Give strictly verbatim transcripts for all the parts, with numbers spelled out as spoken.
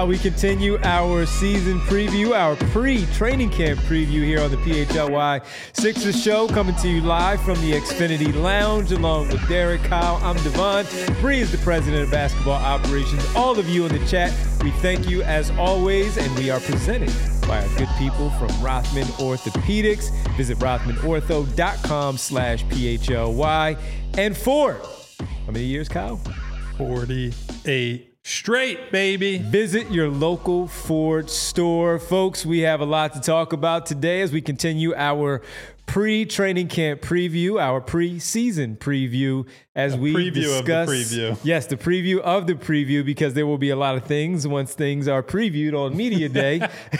while we continue our season preview, our pre-training camp preview here on the P H L Y Sixers show, coming to you live from the Xfinity Lounge along with Derek, Kyle. I'm Devon. Bree is the president of basketball operations. All of you in the chat, we thank you as always, and we are presented by our good people from Rothman Orthopedics. Visit rothmanortho.com slash PHLY. And Ford, how many years, Kyle? forty-eight straight, baby. Visit your local Ford store. Folks, we have a lot to talk about today as we continue our pre-training camp preview, our pre-season preview, as a we preview discuss. Of the preview. Yes, the preview of the preview, because there will be a lot of things once things are previewed on media day.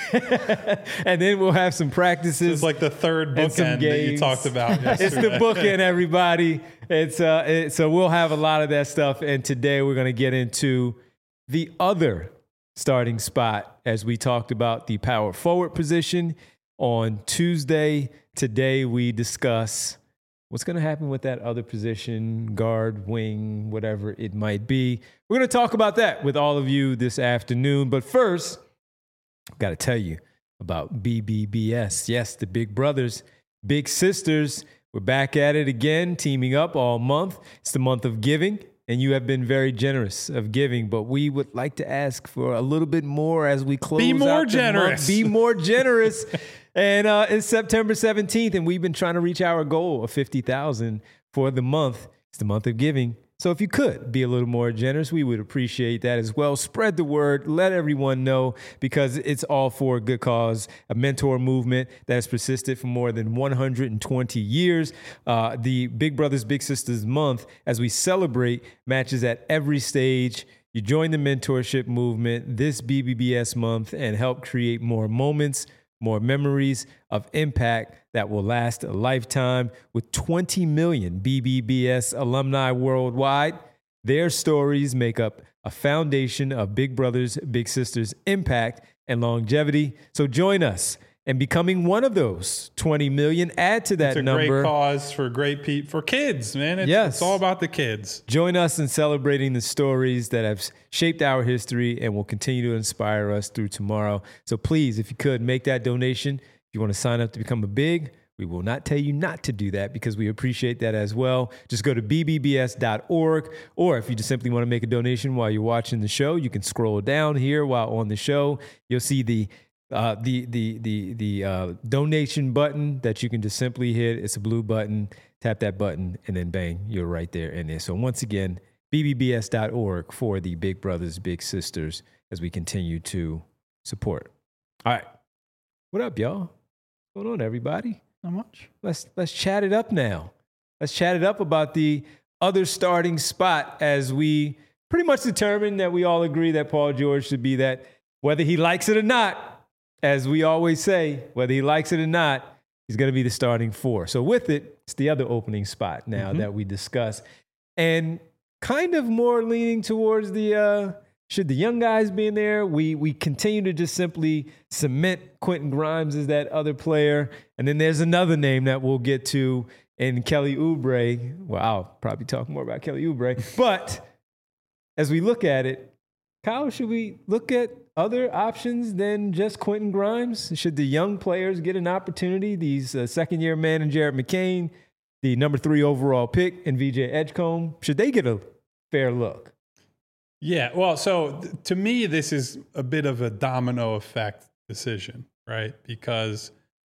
And then we'll have some practices. It's like the third bookend that you talked about yesterday. It's the bookend, everybody. It's uh, it, so we'll have a lot of that stuff. And today we're going to get into the other starting spot as we talked about the power forward position on Tuesday. Today we discuss what's going to happen with that other position, guard, wing, whatever it might be. We're going to talk about that with all of you this afternoon. But first, I've got to tell you about B B B S. Yes, the Big Brothers, Big Sisters. We're back at it again, teaming up all month. It's the month of giving, and you have been very generous of giving, but we would like to ask for a little bit more as we close out the month. Be more generous. Be more generous. And uh, it's September seventeenth, and we've been trying to reach our goal of fifty thousand for the month. It's the month of giving. So if you could be a little more generous, we would appreciate that as well. Spread the word. Let everyone know, because it's all for a good cause, a mentor movement that has persisted for more than one hundred twenty years. Uh, the Big Brothers Big Sisters month, as we celebrate matches at every stage. You join the mentorship movement this B B B S month and help create more moments, more memories of impact that will last a lifetime. With twenty million B B B S alumni worldwide, their stories make up a foundation of Big Brothers Big Sisters impact and longevity. So join us in becoming one of those twenty million. Add to that it's a number. Great cause for great people, for kids, man. It's, yes. It's all about the kids. Join us in celebrating the stories that have shaped our history and will continue to inspire us through tomorrow. So please, if you could, make that donation. If you want to sign up to become a big, we will not tell you not to do that, because we appreciate that as well. Just go to b b b s dot org, or if you just simply want to make a donation while you're watching the show, you can scroll down here while on the show. You'll see the Uh, the the the the uh, donation button that you can just simply hit. It's a blue button. Tap that button, and then bang, you're right there in there. So once again, b b b s dot org for the Big Brothers Big Sisters as we continue to support. All right, what up, y'all? What's going on, everybody? Not much. Let's let's chat it up now. Let's chat it up about the other starting spot, as we pretty much determined that we all agree that Paul George should be that, whether he likes it or not. As we always say, whether he likes it or not, he's going to be the starting four. So with it, it's the other opening spot now mm-hmm. that we discuss. And kind of more leaning towards the, uh, should the young guys be in there? We we continue to just simply cement Quentin Grimes as that other player. And then there's another name that we'll get to in Kelly Oubre. Well, I'll probably talk more about Kelly Oubre. But as we look at it, Kyle, should we look at other options than just Quentin Grimes? Should the young players get an opportunity? These uh, second-year man and Jared McCain, the number three overall pick, and V J Edgecombe, should they get a fair look? Yeah, well, so th- to me, this is a bit of a domino effect decision, right? Because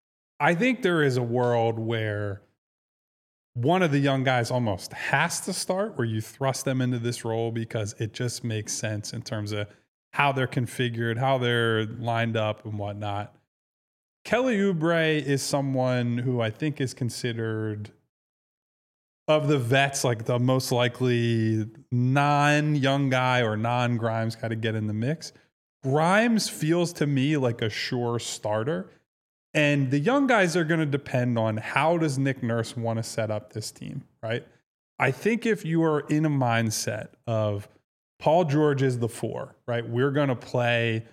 I think there is a world where one of the young guys almost has to start, where you thrust them into this role because it just makes sense in terms of how they're configured, how they're lined up and whatnot. Kelly Oubre is someone who I think is considered, of the vets, like the most likely non-young guy or non-Grimes guy to get in the mix. Grimes feels to me like a sure starter. And the young guys are going to depend on how does Nick Nurse want to set up this team, right? I think if you are in a mindset of Paul George is the four, right? We're going to play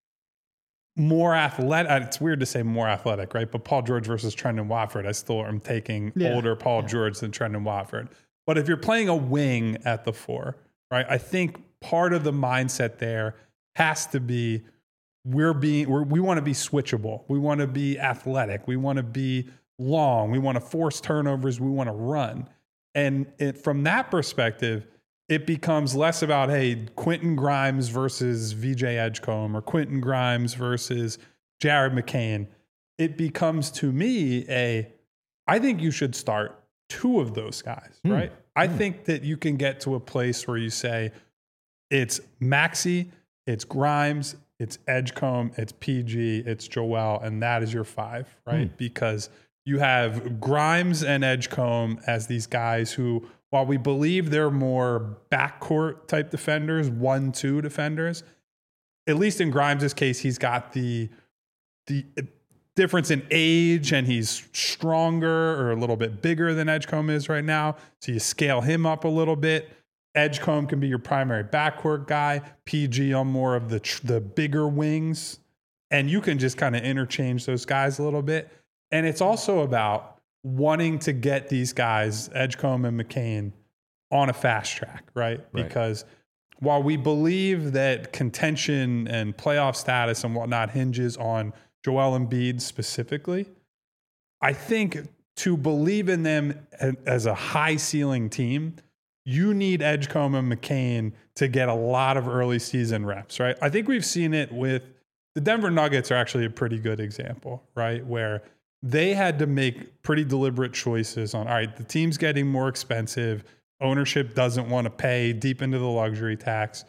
more athletic. It's weird to say more athletic, right? But Paul George versus Trendon Watford, I still am taking yeah. older Paul yeah. George than Trendon Watford. But if you're playing a wing at the four, right? I think part of the mindset there has to be we're being we're, we want to be switchable. We want to be athletic. We want to be long. We want to force turnovers. We want to run. And it, from that perspective, it becomes less about, hey, Quentin Grimes versus V J Edgecombe or Quentin Grimes versus Jared McCain. It becomes, to me, a, I think you should start two of those guys, mm. right? I mm. think that you can get to a place where you say, it's Maxey, it's Grimes, it's Edgecombe, it's P G, it's Joel, and that is your five, right? Mm. Because you have Grimes and Edgecombe as these guys who, while we believe they're more backcourt type defenders, one, two defenders, at least in Grimes' case, he's got the the difference in age and he's stronger or a little bit bigger than Edgecombe is right now. So you scale him up a little bit. Edgecombe can be your primary backcourt guy. P G on more of the the bigger wings. And you can just kind of interchange those guys a little bit. And it's also about wanting to get these guys, Edgecombe and McCain, on a fast track, right? right? Because while we believe that contention and playoff status and whatnot hinges on Joel Embiid specifically, I think to believe in them as a high ceiling team, you need Edgecombe and McCain to get a lot of early season reps, right? I think we've seen it with the Denver Nuggets are actually a pretty good example, right? Where they had to make pretty deliberate choices on, all right, the team's getting more expensive. Ownership doesn't want to pay deep into the luxury tax.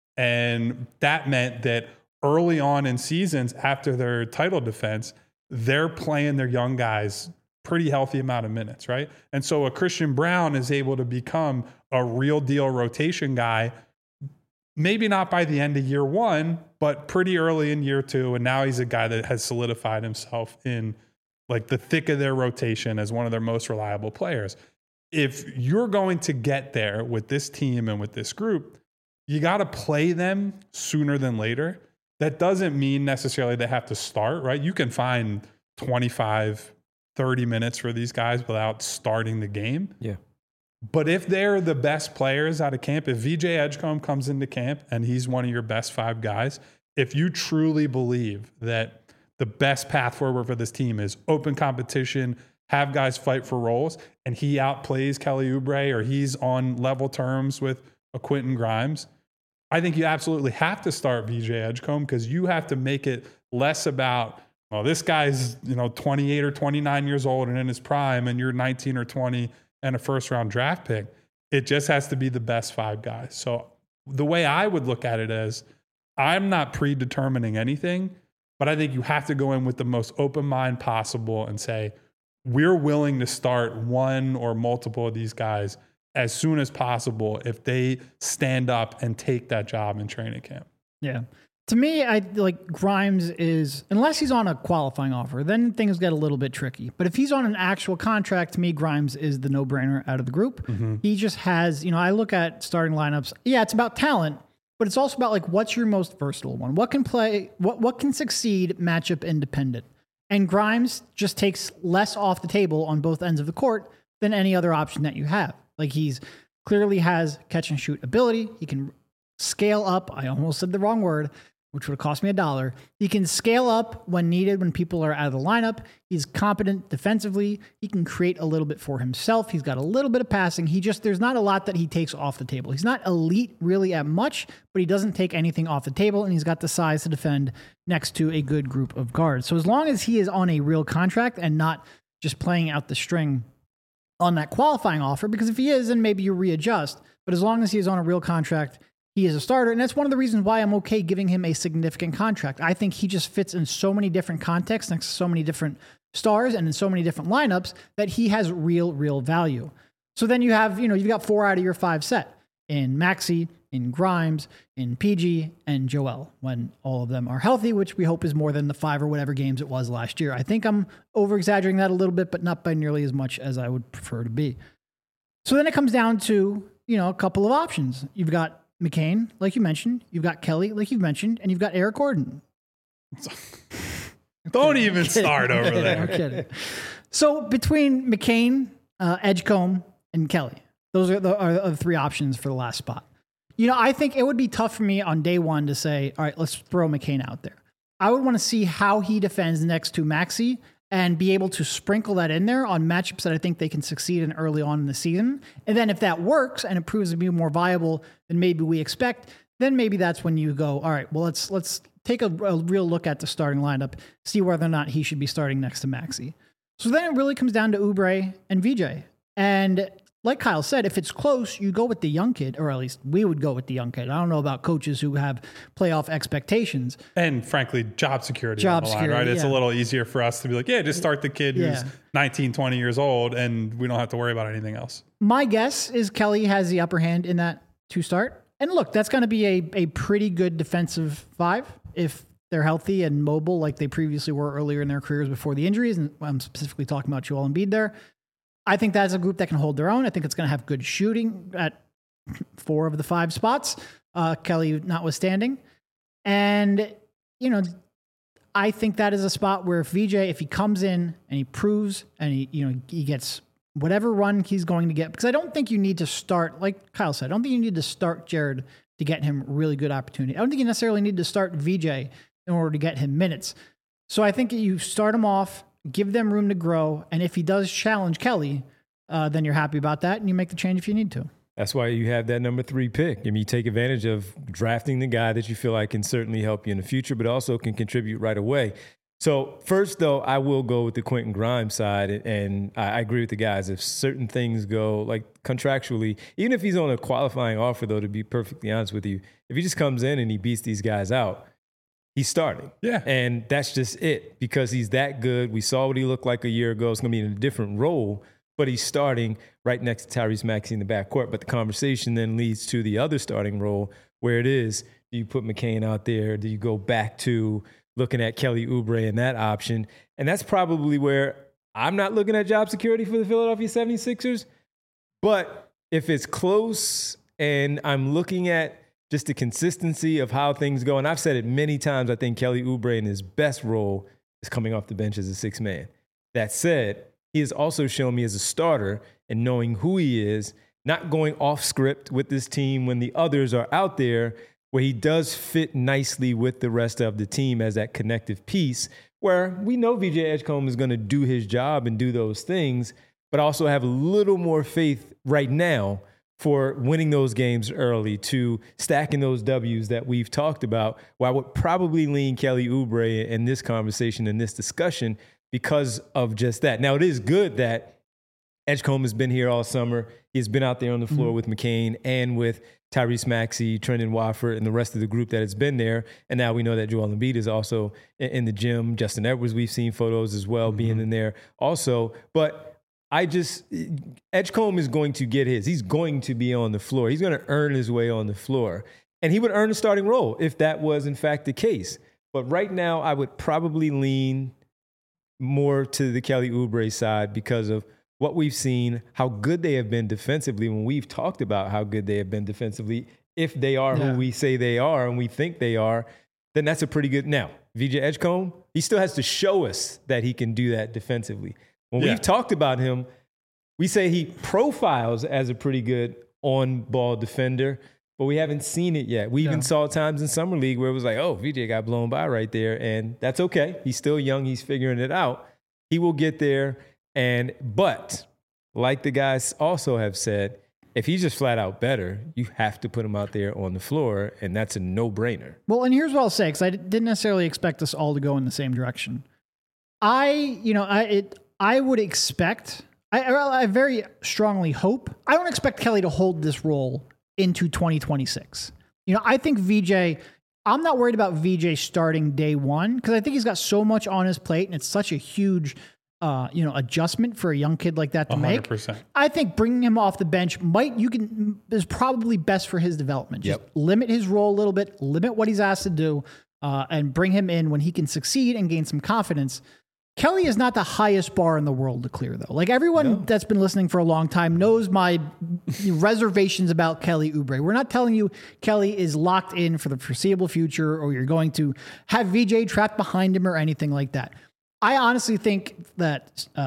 And that meant that early on in seasons after their title defense, they're playing their young guys pretty healthy amount of minutes, right? And so a Christian Brown is able to become a real deal rotation guy, maybe not by the end of year one, but pretty early in year two. And now he's a guy that has solidified himself in like the thick of their rotation as one of their most reliable players. If you're going to get there with this team and with this group, you got to play them sooner than later. That doesn't mean necessarily they have to start, right? You can find twenty-five, thirty minutes for these guys without starting the game. Yeah. But if they're the best players out of camp, if V J Edgecombe comes into camp and he's one of your best five guys, if you truly believe that the best path forward for this team is open competition, have guys fight for roles, and he outplays Kelly Oubre or he's on level terms with a Quentin Grimes, I think you absolutely have to start V J Edgecombe because you have to make it less about, well, this guy's, you know, twenty-eight or twenty-nine years old and in his prime, and you're nineteen or twenty and a first round draft pick. It just has to be the best five guys. So the way I would look at it is, I'm not predetermining anything, but I think you have to go in with the most open mind possible and say, we're willing to start one or multiple of these guys as soon as possible if they stand up and take that job in training camp. Yeah. To me, I like Grimes is, unless he's on a qualifying offer, then things get a little bit tricky. But if he's on an actual contract, to me, Grimes is the no-brainer out of the group. Mm-hmm. He just has, you know, I look at starting lineups. Yeah, it's about talent, but it's also about like, what's your most versatile one? What can play, what, what can succeed matchup independent? And Grimes just takes less off the table on both ends of the court than any other option that you have. Like he's clearly has catch and shoot ability. He can scale up. I almost said the wrong word, which would have cost me a dollar. He can scale up when needed, when people are out of the lineup. He's competent defensively. He can create a little bit for himself. He's got a little bit of passing. He just, there's not a lot that he takes off the table. He's not elite really at much, but he doesn't take anything off the table, and he's got the size to defend next to a good group of guards. So as long as he is on a real contract and not just playing out the string on that qualifying offer, because if he is, then maybe you readjust. But as long as he is on a real contract, he is a starter, and that's one of the reasons why I'm okay giving him a significant contract. I think he just fits in so many different contexts, next to so many different stars, and in so many different lineups that he has real, real value. So then you have, you know, you've got four out of your five set in Maxey, in Grimes, in P G, and Joel when all of them are healthy, which we hope is more than the five or whatever games it was last year. I think I'm over-exaggerating that a little bit, but not by nearly as much as I would prefer to be. So then it comes down to, you know, a couple of options. You've got McCain, like you mentioned. You've got Kelly, like you've mentioned. And you've got Eric Gordon. Don't even start over there. I'm kidding. So between McCain, uh, Edgecombe, and Kelly, those are the, are the three options for the last spot. You know, I think it would be tough for me on day one to say, all right, let's throw McCain out there. I would want to see how he defends next to Maxey and be able to sprinkle that in there on matchups that I think they can succeed in early on in the season. And then if that works and it proves to be more viable than maybe we expect, then maybe that's when you go, all right, well, let's let's take a, a real look at the starting lineup, see whether or not he should be starting next to Maxey. So then it really comes down to Oubre and V J. And like Kyle said, if it's close, you go with the young kid, or at least we would go with the young kid. I don't know about coaches who have playoff expectations. And frankly, job security. Job on the line, security, right? It's yeah. a little easier for us to be like, yeah, just start the kid Yeah. who's nineteen, twenty years old, and we don't have to worry about anything else. My guess is Kelly has the upper hand in that to start. And look, that's going to be a, a pretty good defensive five if they're healthy and mobile like they previously were earlier in their careers before the injuries. And I'm specifically talking about Joel Embiid there. I think that's a group that can hold their own. I think it's going to have good shooting at four of the five spots, uh, Kelly notwithstanding. And, you know, I think that is a spot where if V J, if he comes in and he proves and he, you know, he gets whatever run he's going to get, because I don't think you need to start, like Kyle said, I don't think you need to start Jared to get him really good opportunity. I don't think you necessarily need to start V J in order to get him minutes. So I think you start him off, give them room to grow, and if he does challenge Kelly, uh, then you're happy about that, and you make the change if you need to. That's why you have that number three pick. I mean, you take advantage of drafting the guy that you feel like can certainly help you in the future, but also can contribute right away. So first, though, I will go with the Quentin Grimes side, and I agree with the guys. If certain things go, like contractually, even if he's on a qualifying offer, though, to be perfectly honest with you, if he just comes in and he beats these guys out, he's starting. Yeah. And that's just it, because he's that good. We saw what he looked like a year ago. It's going to be in a different role, but he's starting right next to Tyrese Maxey in the backcourt. But the conversation then leads to the other starting role, where it is, do you put McCain out there? Do you go back to looking at Kelly Oubre and that option? And that's probably where I'm not looking at job security for the Philadelphia seventy-sixers. But if it's close and I'm looking at just the consistency of how things go, and I've said it many times, I think Kelly Oubre in his best role is coming off the bench as a sixth man. That said, he has also shown me as a starter and knowing who he is, not going off script with this team when the others are out there, where he does fit nicely with the rest of the team as that connective piece, where we know V J Edgecombe is going to do his job and do those things, but also have a little more faith right now for winning those games early, to stacking those W's that we've talked about, where I would probably lean Kelly Oubre in this conversation, in this discussion, because of just that. Now, it is good that Edgecombe has been here all summer. He's been out there on the floor mm-hmm. with McCain and with Tyrese Maxey, Trendon Watford, and the rest of the group that has been there. And now we know that Joel Embiid is also in the gym. Justin Edwards, we've seen photos as well, mm-hmm. being in there also. But I just, Edgecombe is going to get his. He's going to be on the floor. He's going to earn his way on the floor. And he would earn a starting role if that was, in fact, the case. But right now, I would probably lean more to the Kelly Oubre side because of what we've seen, how good they have been defensively when we've talked about how good they have been defensively. If they are yeah. who we say they are and we think they are, then that's a pretty good. Now, V J Edgecombe, he still has to show us that he can do that defensively. When yeah. we've talked about him, we say he profiles as a pretty good on-ball defender, but we haven't seen it yet. We yeah. even saw times in Summer League where it was like, oh, V J got blown by right there, and that's okay. He's still young. He's figuring it out. He will get there. And but like the guys also have said, if he's just flat out better, you have to put him out there on the floor, and that's a no-brainer. Well, and here's what I'll say, because I didn't necessarily expect us all to go in the same direction. I, you know, I it, I would expect, I, I very strongly hope, I don't expect Kelly to hold this role into twenty twenty-six. You know, I think V J, I'm not worried about V J starting day one, because I think he's got so much on his plate, and it's such a huge Uh, you know, adjustment for a young kid like that to one hundred percent. make. I think bringing him off the bench might, you can, is probably best for his development. Just yep. limit his role a little bit, limit what he's asked to do, uh, and bring him in when he can succeed and gain some confidence. Kelly is not the highest bar in the world to clear, though. Like everyone no. that's been listening for a long time knows my reservations about Kelly Oubre. We're not telling you Kelly is locked in for the foreseeable future, or you're going to have V J trapped behind him or anything like that. I honestly think that uh,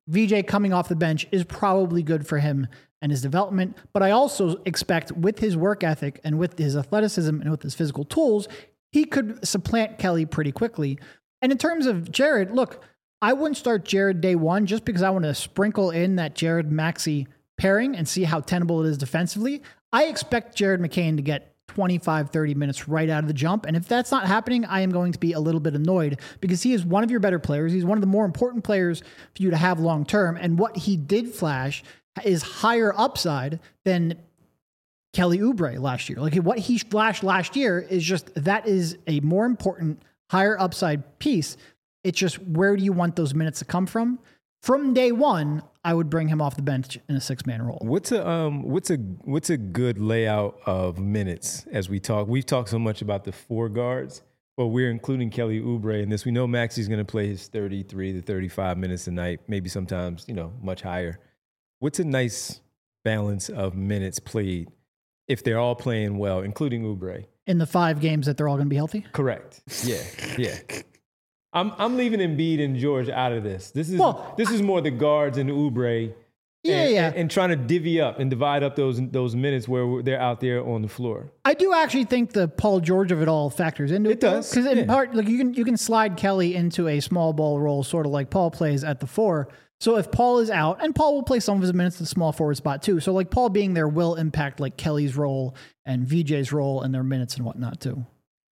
V J coming off the bench is probably good for him and his development. But I also expect with his work ethic and with his athleticism and with his physical tools, he could supplant Kelly pretty quickly. And in terms of Jared, look, I wouldn't start Jared day one just because I want to sprinkle in that Jared Maxey pairing and see how tenable it is defensively. I expect Jared McCain to get twenty-five, thirty minutes right out of the jump. And if that's not happening, I am going to be a little bit annoyed because he is one of your better players. He's one of the more important players for you to have long term. And what he did flash is higher upside than Kelly Oubre last year. Like what he flashed last year is just, that is a more important, higher upside piece. It's just, where do you want those minutes to come from? From day one, I would bring him off the bench in a six-man role. What's a um what's a what's a good layout of minutes as we talk? We've talked so much about the four guards, but we're including Kelly Oubre in this. We know Maxey's going to play his thirty-three to thirty-five minutes a night, maybe sometimes, you know, much higher. What's a nice balance of minutes played if they're all playing well, including Oubre? In the five games that they're all going to be healthy? Correct. Yeah, yeah. I'm I'm leaving Embiid and George out of this. This is well, this is more the guards and Oubre. Yeah, and, yeah. And, and trying to divvy up and divide up those those minutes where they're out there on the floor. I do actually think the Paul George of it all factors into it. It does. Because in yeah. part, like you can you can slide Kelly into a small ball role, sort of like Paul plays at the four. So if Paul is out, and Paul will play some of his minutes in the small forward spot too. So like Paul being there will impact like Kelly's role and V J's role and their minutes and whatnot too.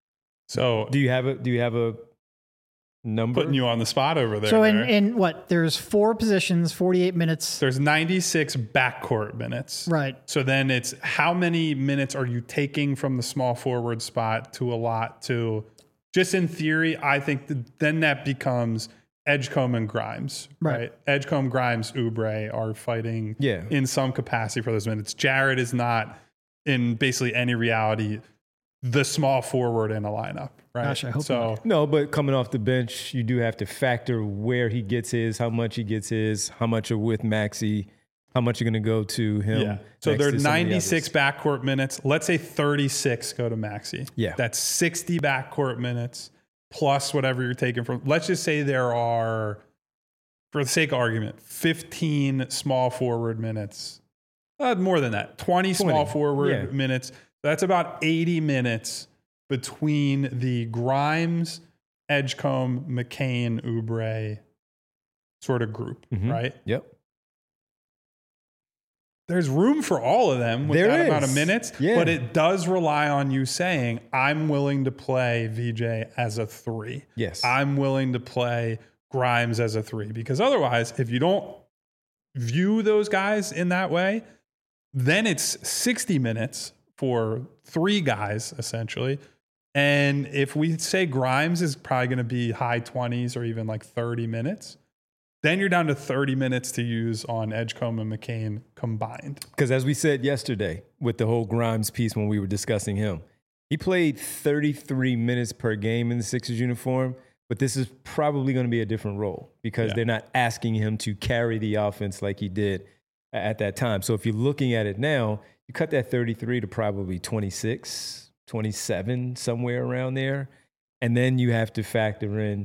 So do you have a do you have a number? Putting you on the spot over there. So in, there. in what, there's four positions, forty-eight minutes. There's ninety-six backcourt minutes. Right. So then it's how many minutes are you taking from the small forward spot to allot to, just in theory, I think that then that becomes Edgecombe and Grimes, right? right? Edgecombe, Grimes, Oubre are fighting yeah. in some capacity for those minutes. Jared is not in basically any reality the small forward in a lineup, right? Gosh, I hope so. not. No, but coming off the bench, you do have to factor where he gets his, how much he gets his, how much are with Maxey, how much are going to go to him. Yeah. So there are ninety-six backcourt minutes. Let's say thirty-six go to Maxey. Yeah. That's sixty backcourt minutes plus whatever you're taking from. Let's just say there are, for the sake of argument, fifteen small forward minutes. Uh, more than that. twenty, twenty small forward yeah. minutes. That's about eighty minutes between the Grimes, Edgecombe, McCain, Oubre sort of group, mm-hmm. right? Yep. There's room for all of them with there that is. amount of minutes, yeah. but it does rely on you saying, I'm willing to play V J as a three. Yes. I'm willing to play Grimes as a three, because otherwise, if you don't view those guys in that way, then it's sixty minutes for three guys, essentially. And if we say Grimes is probably going to be high twenties or even like thirty minutes, then you're down to thirty minutes to use on Edgecombe and McCain combined. Because as we said yesterday with the whole Grimes piece when we were discussing him, he played thirty-three minutes per game in the Sixers uniform, but this is probably going to be a different role because yeah. they're not asking him to carry the offense like he did at that time. So if you're looking at it now, you cut that thirty-three to probably twenty-six, twenty-seven, somewhere around there. And then you have to factor in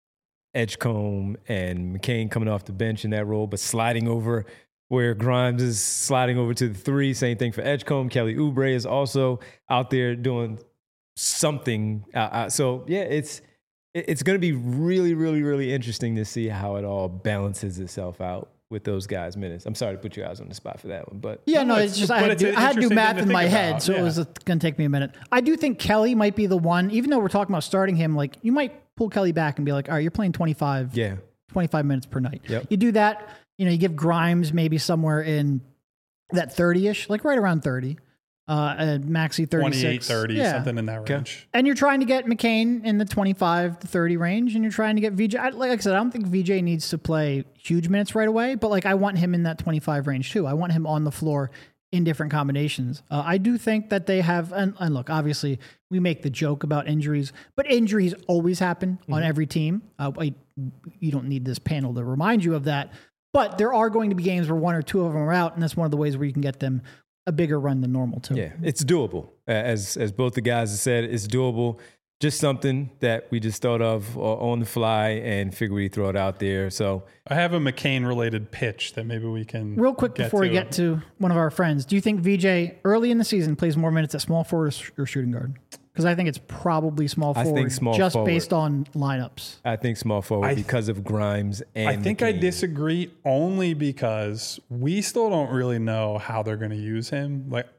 Edgecombe and McCain coming off the bench in that role, but sliding over where Grimes is sliding over to the three. Same thing for Edgecombe. Kelly Oubre is also out there doing something. Uh, uh, so, yeah, it's it's going to be really, really, really interesting to see how it all balances itself out with those guys' minutes. I'm sorry to put you guys on the spot for that one, but yeah, no, no it's, it's just I had, to, I had to do math in my head, about. so yeah. it was going to take me a minute. I do think Kelly might be the one, even though we're talking about starting him, like you might pull Kelly back and be like, all right, you're playing twenty-five, yeah. twenty-five minutes per night. Yep. You do that, you know, you give Grimes maybe somewhere in that thirty-ish, like right around thirty. Uh, and Maxey thirty-six. twenty-eight, thirty, yeah. something in that range. Okay. And you're trying to get McCain in the twenty-five to thirty range, and you're trying to get V J. I, like I said, I don't think V J needs to play huge minutes right away, but like I want him in that twenty-five range too. I want him on the floor in different combinations. Uh, I do think that they have, and, and look, obviously we make the joke about injuries, but injuries always happen mm-hmm. on every team. Uh, I, you don't need this panel to remind you of that, but there are going to be games where one or two of them are out, and that's one of the ways where you can get them a bigger run than normal too. Yeah, it's doable. As as both the guys have said, it's doable. just something that we just thought of on the fly and figured we'd throw it out there. So I have a McCain-related pitch that maybe we can real quick get before to. we get to one of our friends. Do you think V J early in the season plays more minutes at small forward or shooting guard? Because I think it's probably small forward, I think small just forward. based on lineups. I think small forward I, because of Grimes and I think McCain. I disagree only because we still don't really know how they're going to use him. Like,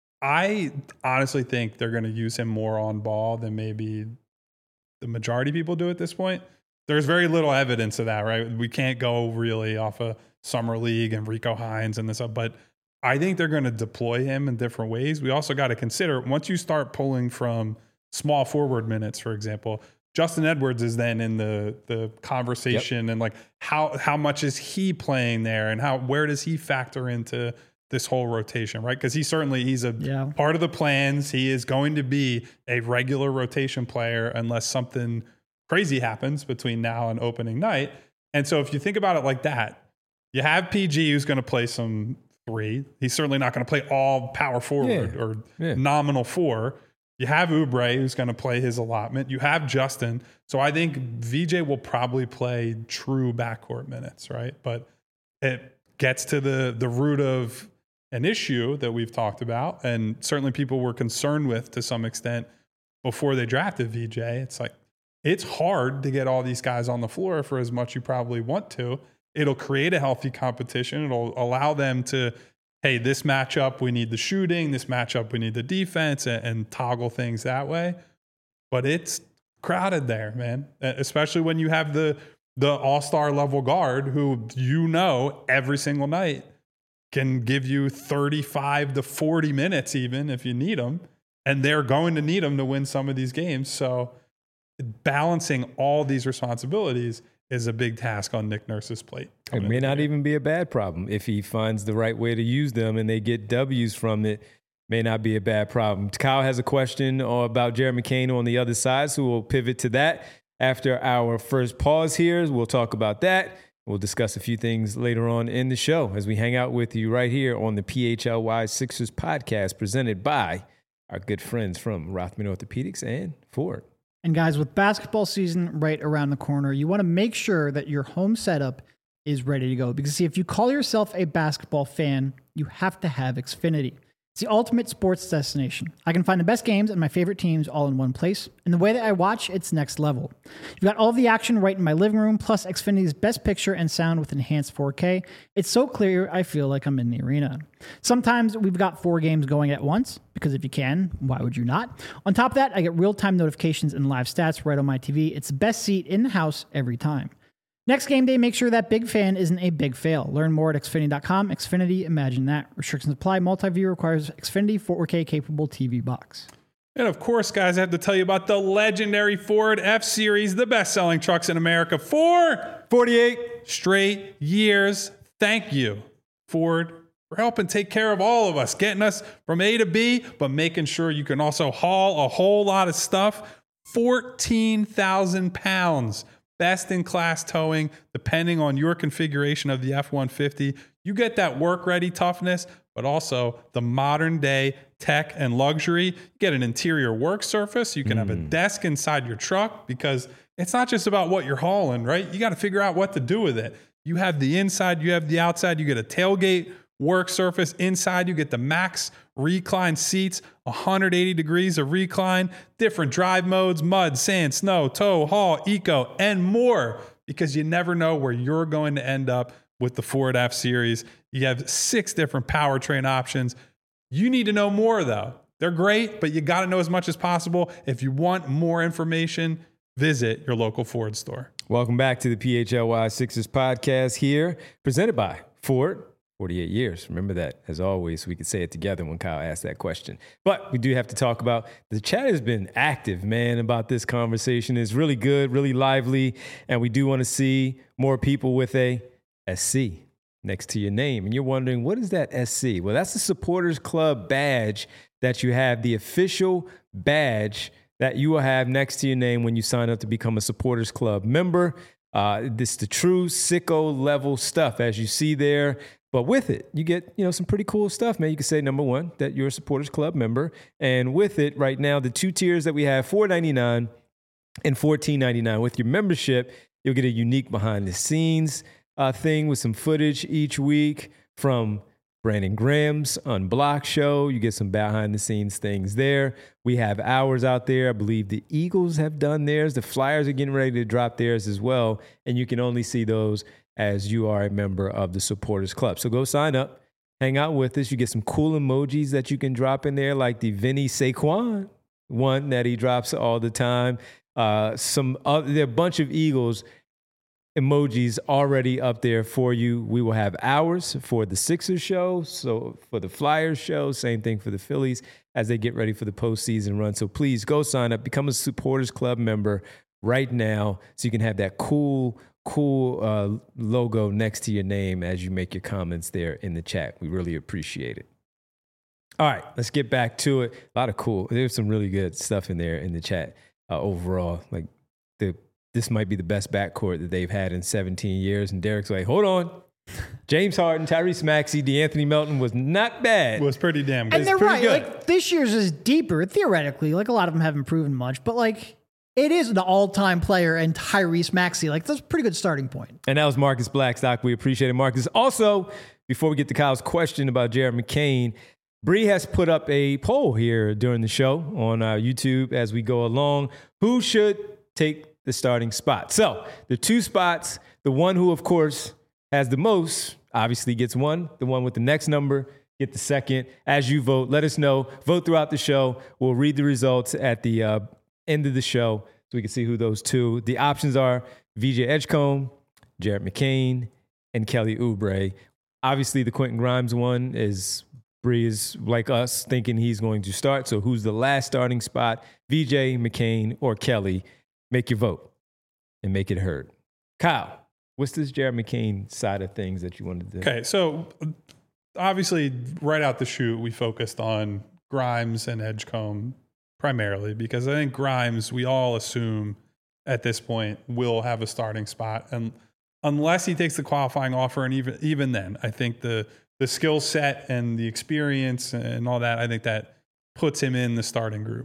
I honestly think they're going to use him more on ball than maybe the majority of people do at this point. There's very little evidence of that, right? We can't go really off of Summer League and Rico Hines and this, but I think they're going to deploy him in different ways. We also got to consider once you start pulling from small forward minutes, for example, Justin Edwards is then in the the conversation yep. and like how how much is he playing there and how where does he factor into this whole rotation, right? Because he certainly he's a yeah. part of the plans. He is going to be a regular rotation player unless something crazy happens between now and opening night. And so if you think about it like that, you have P G who's going to play some three. He's certainly not going to play all power forward yeah. or yeah. nominal four. You have Oubre who's going to play his allotment. You have Justin. So I think V J will probably play true backcourt minutes, right? But it gets to the the root of an issue that we've talked about, and certainly people were concerned with to some extent before they drafted V J. It's like, it's hard to get all these guys on the floor for as much you probably want to. It'll create a healthy competition. It'll allow them to, hey, this matchup, we need the shooting. This matchup, we need the defense, and, and toggle things that way. But it's crowded there, man, especially when you have the the all-star level guard who you know every single night can give you thirty-five to forty minutes even if you need them. And they're going to need them to win some of these games. So balancing all these responsibilities is a big task on Nick Nurse's plate. It may not even be a bad problem if he finds the right way to use them and they get W's from it. May not be a bad problem. Kyle has a question about Jared McCain on the other side, so we'll pivot to that after our first pause here. We'll talk about that. We'll discuss a few things later on in the show as we hang out with you right here on the P H L Y Sixers podcast presented by our good friends from Rothman Orthopedics and Ford. And guys, with basketball season right around the corner, you want to make sure that your home setup is ready to go. Because see, if you call yourself a basketball fan, you have to have Xfinity. It's the ultimate sports destination. I can find the best games and my favorite teams all in one place. And the way that I watch, it's next level. You've got all of the action right in my living room, plus Xfinity's best picture and sound with enhanced four K. It's so clear, I feel like I'm in the arena. Sometimes we've got four games going at once, because if you can, why would you not? On top of that, I get real-time notifications and live stats right on my T V. It's the best seat in the house every time. Next game day, make sure that big fan isn't a big fail. Learn more at Xfinity dot com. Xfinity, imagine that. Restrictions apply. Multi-view requires Xfinity four K capable T V box. And of course, guys, I have to tell you about the legendary Ford F-Series, the best-selling trucks in America for forty-eight straight years. Thank you, Ford, for helping take care of all of us, getting us from A to B, but making sure you can also haul a whole lot of stuff. fourteen thousand pounds. Best-in-class towing, depending on your configuration of the F one fifty. You get that work-ready toughness, but also the modern-day tech and luxury. You get an interior work surface. You can mm. have a desk inside your truck because it's not just about what you're hauling, right? You got to figure out what to do with it. You have the inside, you have the outside. You get a tailgate work surface. Inside, you get the max recline seats, one hundred eighty degrees of recline, different drive modes, mud, sand, snow, tow, haul, eco, and more, because you never know where you're going to end up with the Ford F-Series. You have six different powertrain options. You need to know more, though. They're great, but you got to know as much as possible. If you want more information, visit your local Ford store. Welcome back to the P H L Y Sixers podcast here, presented by Ford. forty-eight years. Remember that, as always. We could say it together when Kyle asked that question. But we do have to talk about, the chat has been active, man, about this conversation. It's really good, really lively, and we do want to see more people with a S C next to your name. And you're wondering, what is that S C? Well, that's the Supporters Club badge that you have, the official badge that you will have next to your name when you sign up to become a Supporters Club member. Uh, this is the true sicko level stuff, as you see there. But with it, you get, you know, some pretty cool stuff, man. You can say, number one, that you're a Supporters Club member. And with it, right now, the two tiers that we have, four ninety-nine and fourteen ninety-nine. With your membership, you'll get a unique behind-the-scenes uh, thing with some footage each week from Brandon Graham's Unblocked show. You get some behind-the-scenes things there. We have hours out there. I believe the Eagles have done theirs. The Flyers are getting ready to drop theirs as well. And you can only see those as you are a member of the Supporters Club. So go sign up, hang out with us. You get some cool emojis that you can drop in there, like the Vinny Saquon one that he drops all the time. Uh, some other, there are a bunch of Eagles emojis already up there for you. We will have ours for the Sixers show, so for the Flyers show, same thing for the Phillies as they get ready for the postseason run. So please go sign up, become a Supporters Club member right now so you can have that cool cool uh, logo next to your name as you make your comments there in the chat. We really appreciate it. All right, let's get back to it. A lot of cool. There's some really good stuff in there in the chat uh, overall. Like the this might be the best backcourt that they've had in seventeen years. And Derek's like, hold on. James Harden, Tyrese Maxey, DeAnthony Melton was not bad. It was pretty damn good. And they're pretty right. good. Like this year's is deeper theoretically. Like a lot of them haven't proven much, but like it is an all-time player and Tyrese Maxey. Like that's a pretty good starting point. And that was Marcus Blackstock. We appreciate it, Marcus. Also, before we get to Kyle's question about Jared McCain, Bree has put up a poll here during the show on our YouTube as we go along. Who should take the starting spot? So the two spots, the one who, of course, has the most obviously gets one. The one with the next number get the second. As you vote, let us know. Vote throughout the show. We'll read the results at the uh, end of the show so we can see who those two. The options are V J Edgecombe, Jared McCain, and Kelly Oubre. Obviously, the Quentin Grimes one is Bree is like us thinking he's going to start. So who's the last starting spot? V J, McCain, or Kelly? Make your vote and make it heard. Kyle, what's this Jared McCain side of things that you wanted to do? Okay, so obviously right out the chute, we focused on Grimes and Edgecombe primarily because I think Grimes, we all assume at this point, will have a starting spot. And unless he takes the qualifying offer, and even even then, I think the the skill set and the experience and all that, I think that puts him in the starting group.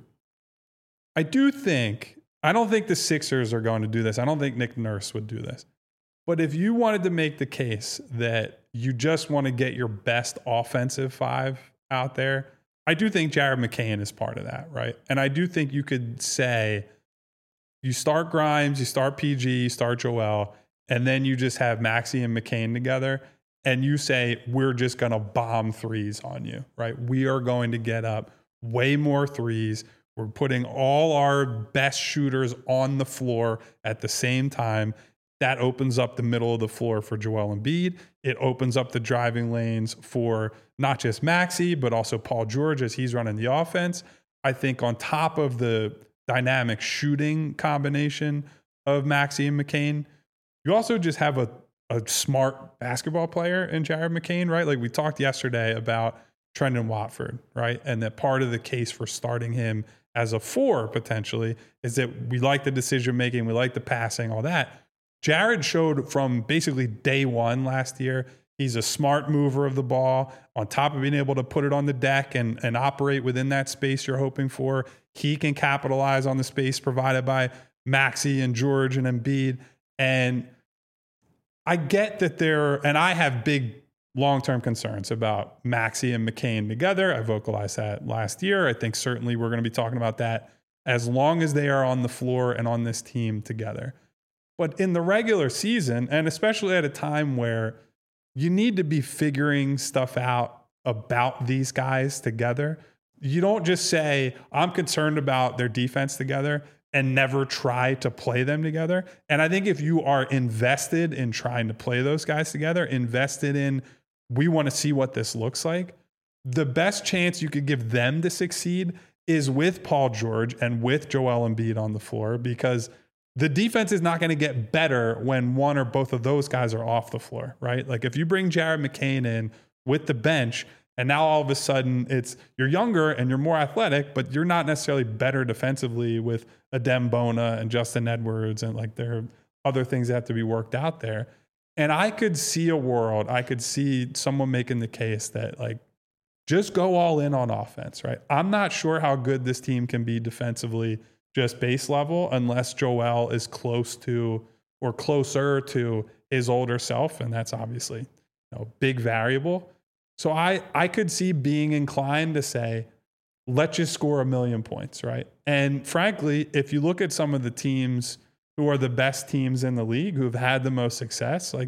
I do think, I don't think the Sixers are going to do this. I don't think Nick Nurse would do this. But if you wanted to make the case that you just want to get your best offensive five out there, I do think Jared McCain is part of that, right? And I do think you could say you start Grimes, you start P G, you start Joel, and then you just have Maxey and McCain together, and you say, we're just going to bomb threes on you, right? We are going to get up way more threes. We're putting all our best shooters on the floor at the same time. That opens up the middle of the floor for Joel Embiid. It opens up the driving lanes for not just Maxey, but also Paul George as he's running the offense. I think on top of the dynamic shooting combination of Maxey and McCain, you also just have a, a smart basketball player in Jared McCain, right? Like we talked yesterday about Trendon Watford, right? And that part of the case for starting him as a four potentially is that we like the decision making, we like the passing, all that. Jared showed from basically day one last year, he's a smart mover of the ball on top of being able to put it on the deck and, and operate within that space you're hoping for. He can capitalize on the space provided by Maxey and George and Embiid. And I get that there, and I have big long-term concerns about Maxey and McCain together. I vocalized that last year. I think certainly we're going to be talking about that as long as they are on the floor and on this team together. But in the regular season, and especially at a time where you need to be figuring stuff out about these guys together, you don't just say, I'm concerned about their defense together and never try to play them together. And I think if you are invested in trying to play those guys together, invested in, we want to see what this looks like, the best chance you could give them to succeed is with Paul George and with Joel Embiid on the floor, because the defense is not going to get better when one or both of those guys are off the floor, right? Like if you bring Jared McCain in with the bench and now all of a sudden it's you're younger and you're more athletic, but you're not necessarily better defensively with Adem Bona and Justin Edwards, and like there are other things that have to be worked out there. And I could see a world, I could see someone making the case that like, just go all in on offense, right? I'm not sure how good this team can be defensively, just base level, unless Joel is close to or closer to his older self. And that's obviously, you know, big variable. So I, I could see being inclined to say, let's just score a million points, right? And frankly, if you look at some of the teams who are the best teams in the league, who've had the most success, like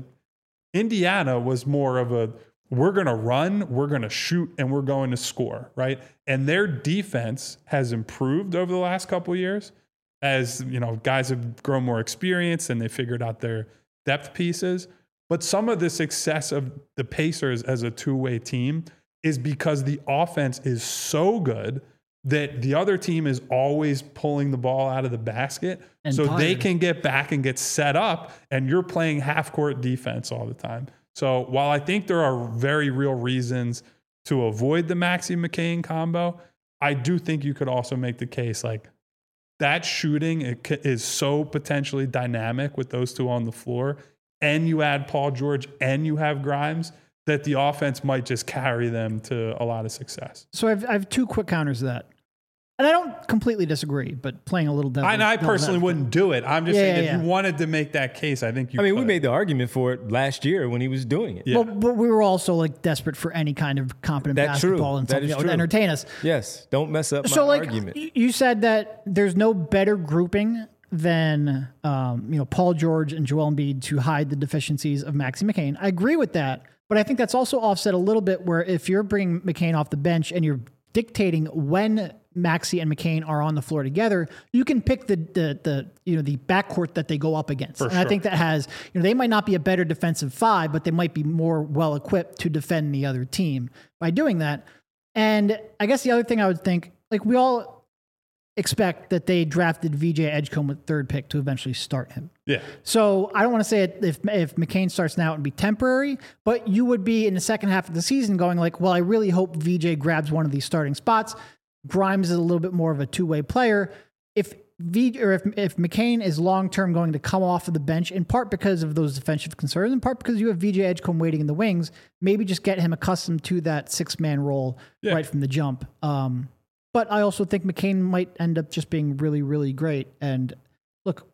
Indiana was more of a, we're going to run, we're going to shoot, and we're going to score, right? And their defense has improved over the last couple of years as, you know, guys have grown more experience and they figured out their depth pieces. But some of the success of the Pacers as a two-way team is because the offense is so good that the other team is always pulling the ball out of the basket and so tired. They can get back and get set up, and you're playing half-court defense all the time. So while I think there are very real reasons to avoid the Maxey McCain combo, I do think you could also make the case like that shooting it is so potentially dynamic with those two on the floor, and you add Paul George and you have Grimes, that the offense might just carry them to a lot of success. So I have, I have two quick counters to that. And I don't completely disagree, but playing a little devil. And I personally wouldn't do it. I'm just yeah, saying yeah, if yeah. you wanted to make that case, I think you I mean, could. we made the argument for it last year when he was doing it. Yeah. Well, but we were also like desperate for any kind of competent That's basketball true. and that something that would true. entertain us. Yes. Don't mess up my so, like, argument. You said that there's no better grouping than um, you know Paul George and Joel Embiid to hide the deficiencies of Maxey McCain. I agree with that, but I think that's also offset a little bit where if you're bringing McCain off the bench and you're dictating when Maxey and McCain are on the floor together, you can pick the the the you know the backcourt that they go up against. For and sure. I think that has, you know, they might not be a better defensive five, but they might be more well equipped to defend the other team by doing that. And I guess the other thing I would think, like we all expect that they drafted V J Edgecombe with third pick to eventually start him. Yeah. So I don't want to say it if if McCain starts now and be temporary, but you would be in the second half of the season going like, well, I really hope V J grabs one of these starting spots. Grimes is a little bit more of a two-way player. If V or if if McCain is long-term going to come off of the bench, in part because of those defensive concerns, in part because you have V J Edgecombe waiting in the wings, maybe just get him accustomed to that six-man role yeah. right from the jump. Um, but I also think McCain might end up just being really, really great. And look,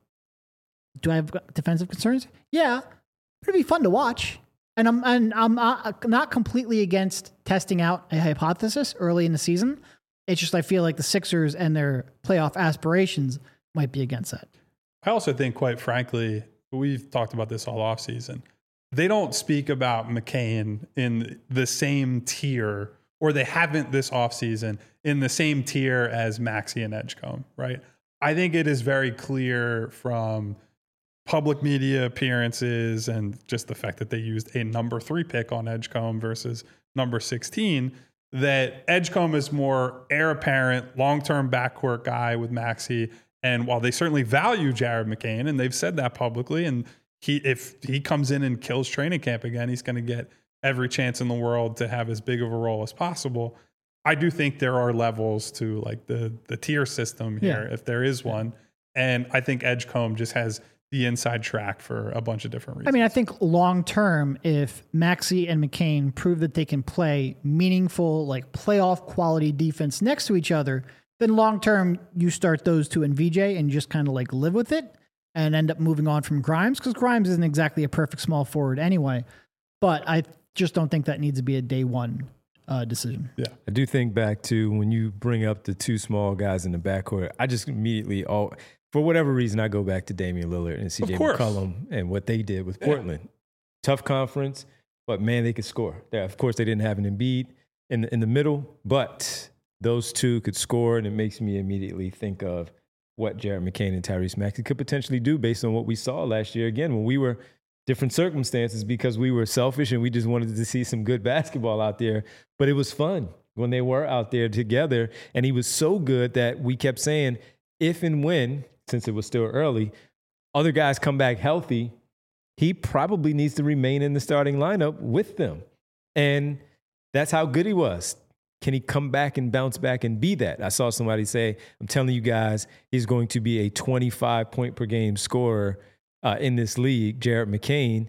do I have defensive concerns? Yeah, but it'd be fun to watch. And I'm and I'm not, not completely against testing out a hypothesis early in the season. It's just I feel like the Sixers and their playoff aspirations might be against that. I also think, quite frankly, we've talked about this all offseason. They don't speak about McCain in the same tier, or they haven't this offseason in the same tier as Maxey and Edgecombe, right? I think it is very clear from public media appearances and just the fact that they used a number three pick on Edgecombe versus number sixteen that Edgecombe is more heir apparent, long-term backcourt guy with Maxey. And while they certainly value Jared McCain, and they've said that publicly, and he if he comes in and kills training camp again, he's going to get every chance in the world to have as big of a role as possible. I do think there are levels to like the the tier system here, yeah. if there is one. And I think Edgecombe just has the inside track for a bunch of different reasons. I mean, I think long term, if Maxey and McCain prove that they can play meaningful, like playoff quality defense next to each other, then long term you start those two in V J and just kind of like live with it and end up moving on from Grimes, because Grimes isn't exactly a perfect small forward anyway. But I just don't think that needs to be a day one uh, decision. Yeah, I do think back to when you bring up the two small guys in the backcourt, I just immediately all. For whatever reason, I go back to Damian Lillard and C J McCollum and what they did with Portland. Yeah. Tough conference, but man, they could score. Yeah, of course, they didn't have an Embiid in the, in the middle, but those two could score, and it makes me immediately think of what Jared McCain and Tyrese Maxey could potentially do based on what we saw last year. Again, when we were different circumstances because we were selfish and we just wanted to see some good basketball out there, but it was fun when they were out there together, and he was so good that we kept saying, if and when, since it was still early, other guys come back healthy, he probably needs to remain in the starting lineup with them. And that's how good he was. Can he come back and bounce back and be that? I saw somebody say, I'm telling you guys, he's going to be a twenty-five point per game scorer uh, in this league, Jared McCain.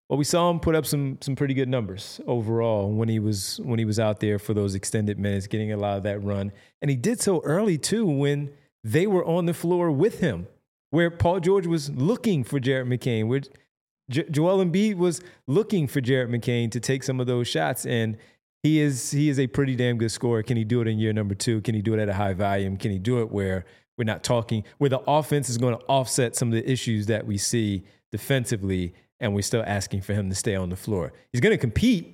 but we saw him put up some some pretty good numbers overall when he was when he was out there for those extended minutes, getting a lot of that run. And he did so early, too, when they were on the floor with him, where Paul George was looking for Jared McCain, where J- Joel Embiid was looking for Jared McCain to take some of those shots. And he is he is a pretty damn good scorer. Can he do it in year number two? Can he do it at a high volume? Can he do it where we're not talking, where the offense is going to offset some of the issues that we see defensively, and we're still asking for him to stay on the floor? He's going to compete.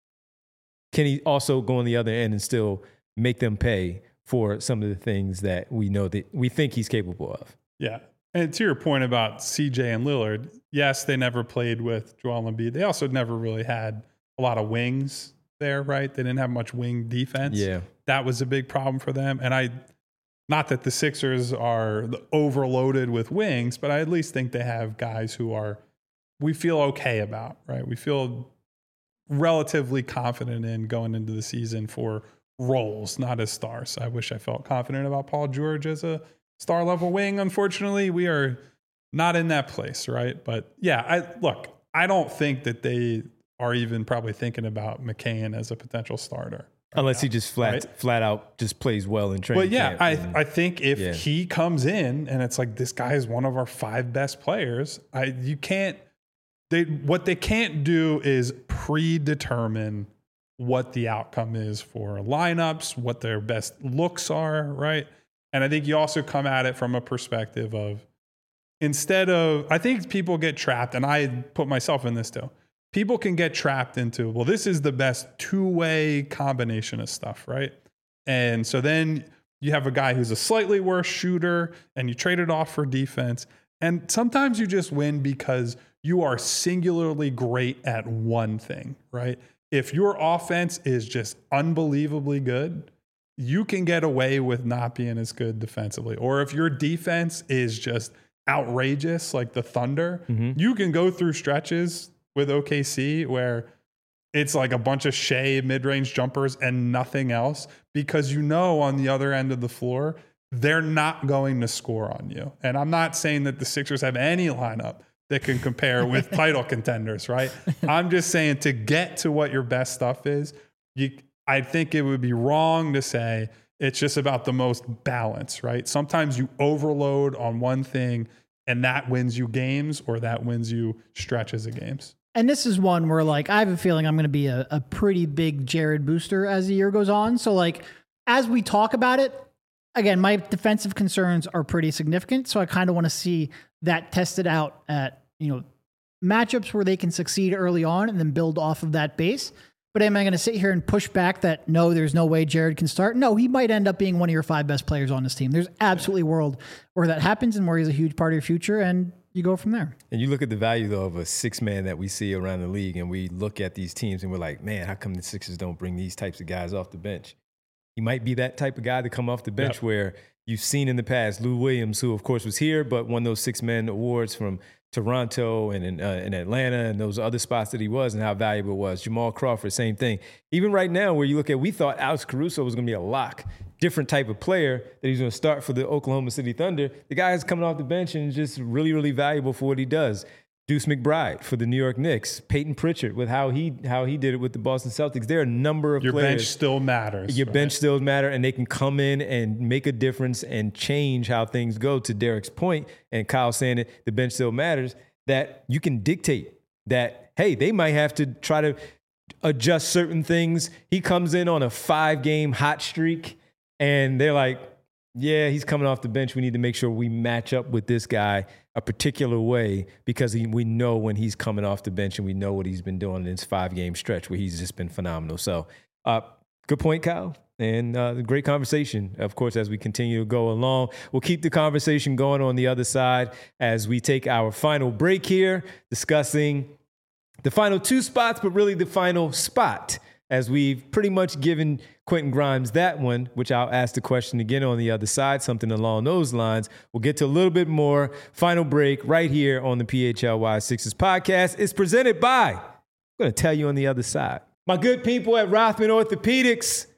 Can he also go on the other end and still make them pay for some of the things that we know that we think he's capable of? Yeah. And to your point about C J and Lillard, yes, they never played with Joel Embiid. They also never really had a lot of wings there, right? They didn't have much wing defense. Yeah. That was a big problem for them. And I, not that the Sixers are overloaded with wings, but I at least think they have guys who are, we feel okay about, right? We feel relatively confident in going into the season for roles, not as stars. I wish I felt confident about Paul George as a star level wing. Unfortunately, we are not in that place, right? But yeah, I look, I don't think that they are even probably thinking about McCain as a potential starter. Right Unless now, he just flat right? flat out just plays well in training But yeah, camp I and- I think if yeah. he comes in and it's like, this guy is one of our five best players, I you can't they what they can't do is predetermine what the outcome is for lineups, what their best looks are, right? And I think you also come at it from a perspective of, instead of, I think people get trapped, and I put myself in this too. People can get trapped into, well, this is the best two-way combination of stuff, right? And so then you have a guy who's a slightly worse shooter, and you trade it off for defense. And sometimes you just win because you are singularly great at one thing, right? If your offense is just unbelievably good, you can get away with not being as good defensively. Or if your defense is just outrageous, like the Thunder, Mm-hmm. you can go through stretches with O K C where it's like a bunch of Shea mid-range jumpers and nothing else, because you know on the other end of the floor, they're not going to score on you. And I'm not saying that the Sixers have any lineup that can compare with title contenders, right? I'm just saying, to get to what your best stuff is, you I think it would be wrong to say it's just about the most balance, right? Sometimes you overload on one thing and that wins you games, or that wins you stretches of games. And this is one where, like, I have a feeling I'm going to be a, a pretty big Jared booster as the year goes on. So, like, as we talk about it, again, my defensive concerns are pretty significant. So I kind of want to see that tested out at, you know, matchups where they can succeed early on and then build off of that base. But am I going to sit here and push back that, no, there's no way Jared can start? No, he might end up being one of your five best players on this team. There's absolutely a world where that happens and where he's a huge part of your future, and you go from there. And you look at the value, though, of a six-man that we see around the league, and we look at these teams and we're like, man, how come the Sixers don't bring these types of guys off the bench? He might be that type of guy to come off the bench. Yep. Where you've seen in the past Lou Williams, who, of course, was here, but won those six-man awards from Toronto and in, uh, in Atlanta and those other spots that he was, and how valuable it was. Jamal Crawford, same thing. Even right now, where you look at, we thought Alex Caruso was going to be a lock, different type of player that he's going to start for the Oklahoma City Thunder. The guy is coming off the bench and just really, really valuable for what he does. Deuce McBride for the New York Knicks, Peyton Pritchard with how he how he did it with the Boston Celtics. There are a number of Your players. bench still matters. Your right? bench still matter, and they can come in and make a difference and change how things go. To Derek's point, and Kyle saying it, the bench still matters, that you can dictate that, hey, they might have to try to adjust certain things. He comes in on a five-game hot streak, and they're like, yeah, he's coming off the bench. We need to make sure we match up with this guy a particular way, because he, we know when he's coming off the bench, and we know what he's been doing in this five-game stretch where he's just been phenomenal. So uh, good point, Kyle, and uh, great conversation. Of course, as we continue to go along, we'll keep the conversation going on the other side as we take our final break here, discussing the final two spots, but really the final spot, as we've pretty much given Quentin Grimes that one, which I'll ask the question again on the other side, something along those lines. We'll get to a little bit more. Final break right here on the P H L Y Sixers podcast. It's presented by, I'm going to tell you on the other side, my good people at Rothman Orthopedics.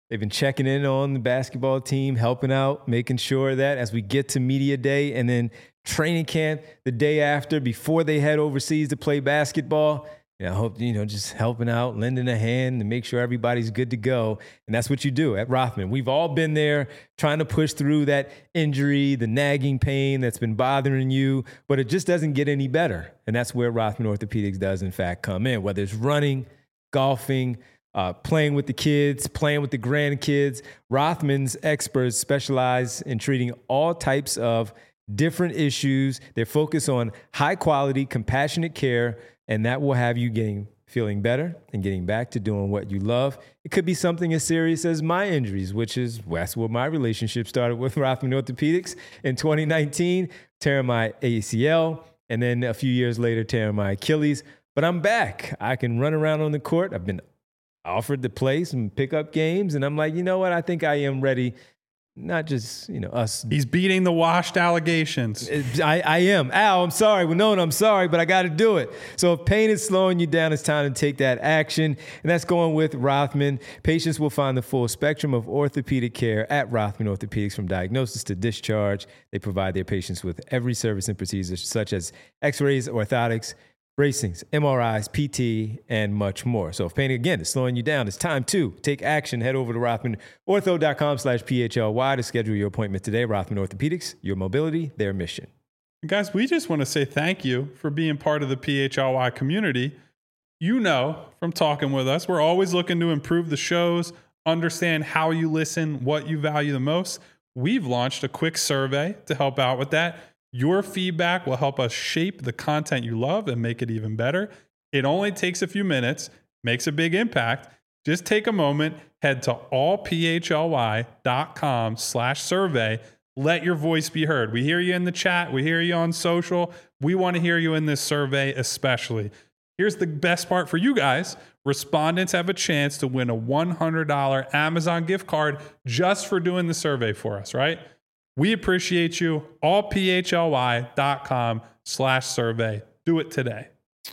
They've been checking in on the basketball team, helping out, making sure that as we get to media day and then training camp the day after, before they head overseas to play basketball, you know, I hope, you know, just helping out, lending a hand to make sure everybody's good to go. And that's what you do at Rothman. We've all been there trying to push through that injury, the nagging pain that's been bothering you, but it just doesn't get any better. And that's where Rothman Orthopedics does, in fact, come in, whether it's running, golfing, uh, playing with the kids, playing with the grandkids. Rothman's experts specialize in treating all types of different issues. They're focused on high quality, compassionate care, and that will have you getting feeling better and getting back to doing what you love. It could be something as serious as my injuries, which is that's where my relationship started with Rothman Orthopedics in twenty nineteen, tearing my A C L, and then a few years later, tearing my Achilles. But I'm back. I can run around on the court. I've been offered to play some pickup games, and I'm like, you know what? I think I am ready. Not just, you know, us. He's beating the washed allegations. I, I am. Al, I'm sorry. Well, no, I'm sorry, but I got to do it. So if pain is slowing you down, it's time to take that action. And that's going with Rothman. Patients will find the full spectrum of orthopedic care at Rothman Orthopedics, from diagnosis to discharge. They provide their patients with every service and procedures such as x-rays, orthotics, bracings, M R Is, P T, and much more. So if pain, again, is slowing you down, it's time to take action. Head over to Rothman Ortho dot com slash P H L Y to schedule your appointment today. Rothman Orthopedics, your mobility, their mission. Guys, we just want to say thank you for being part of the P H L Y community. You know from talking with us, we're always looking to improve the shows, understand how you listen, what you value the most. We've launched a quick survey to help out with that. Your feedback will help us shape the content you love and make it even better. It only takes a few minutes, makes a big impact. Just take a moment, head to all P H L Y dot com slash survey. Let your voice be heard. We hear you in the chat. We hear you on social. We want to hear you in this survey especially. Here's the best part for you guys. Respondents have a chance to win a one hundred dollars Amazon gift card just for doing the survey for us, right? We appreciate you. all P H L Y dot com slash survey. Do it today.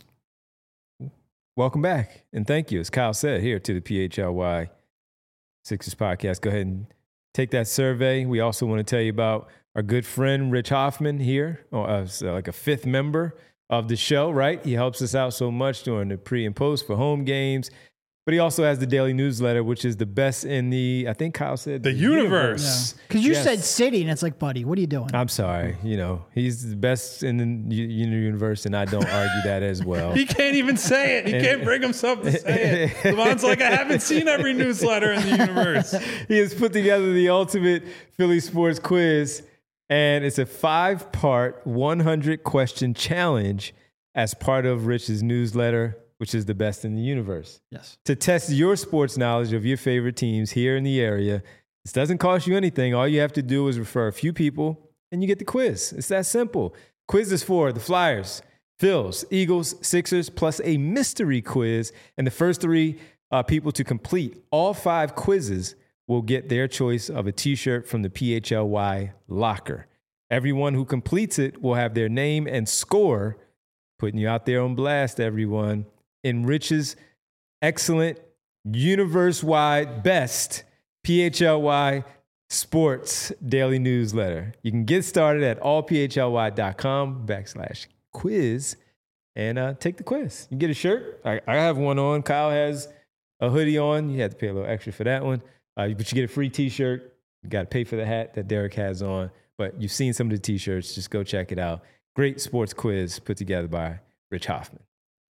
Welcome back. And thank you, as Kyle said, here to the P H L Y Sixers podcast. Go ahead and take that survey. We also want to tell you about our good friend, Rich Hoffman, here, or, uh, so like a fifth member of the show, right? He helps us out so much during the pre and post for home games. But he also has the daily newsletter, which is the best in the, I think Kyle said, the, the universe. Because yeah. you yes. said city, and it's like, buddy, what are you doing? I'm sorry. You know, he's the best in the universe, and I don't argue that as well. He can't even say it. He and, can't bring himself to say it. Levon's like, I haven't seen every newsletter in the universe. He has put together the ultimate Philly sports quiz, and it's a five-part, one hundred question challenge as part of Rich's newsletter, which is the best in the universe. Yes. To test your sports knowledge of your favorite teams here in the area. This doesn't cost you anything. All you have to do is refer a few people, and you get the quiz. It's that simple. Quiz is for the Flyers, Phils, Eagles, Sixers, plus a mystery quiz. And the first three uh, people to complete all five quizzes will get their choice of a T-shirt from the P H L Y locker. Everyone who completes it will have their name and score, putting you out there on blast, everyone, in Rich's excellent, universe-wide best P H L Y sports daily newsletter. You can get started at all P H L Y dot com backslash quiz and uh, take the quiz. You get a shirt. I, I have one on. Kyle has a hoodie on. You have to pay a little extra for that one. Uh, but you get a free T-shirt. You got to pay for the hat that Derek has on. But you've seen some of the T-shirts. Just go check it out. Great sports quiz put together by Rich Hoffman.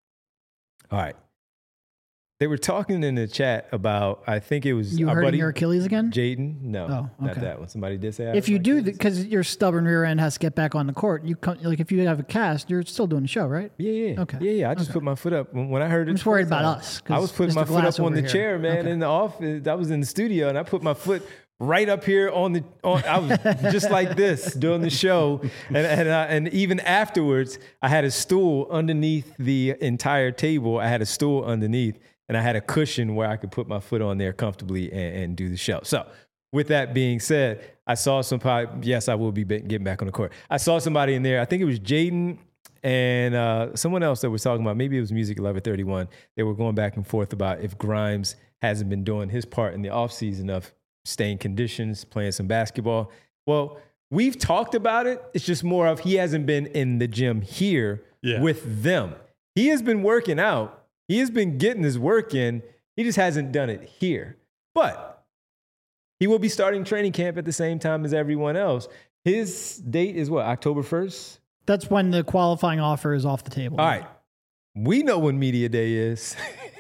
All right. They were talking in the chat about, I think it was you our hurting buddy, your Achilles again? Jaden. No, oh, okay. not that one. Somebody did say I if you do, because your stubborn rear end has to get back on the court. You come, like if you have a cast, you're still doing the show, right? Yeah, yeah, okay, yeah, yeah. I just okay. put my foot up when, when I heard it. I'm just worried about us. I was putting Mister my Glass foot up on the here. chair, man, okay. in the office. I was in the studio, and I put my foot right up here on the. On, I was just like this doing the show, and and, uh, and even afterwards, I had a stool underneath the entire table. I had a stool underneath. And I had a cushion where I could put my foot on there comfortably and, and do the show. So with that being said, I saw some, yes, I will be getting back on the court. I saw somebody in there. I think it was Jaden and uh, someone else that was talking about, maybe it was Music eleven thirty-one, they were going back and forth about if Grimes hasn't been doing his part in the offseason of staying conditions, playing some basketball. Well, we've talked about it. It's just more of he hasn't been in the gym here yeah. with them. He has been working out. He has been getting his work in. He just hasn't done it here. But he will be starting training camp at the same time as everyone else. His date is what, October first? That's when the qualifying offer is off the table. All right. We know when media day is.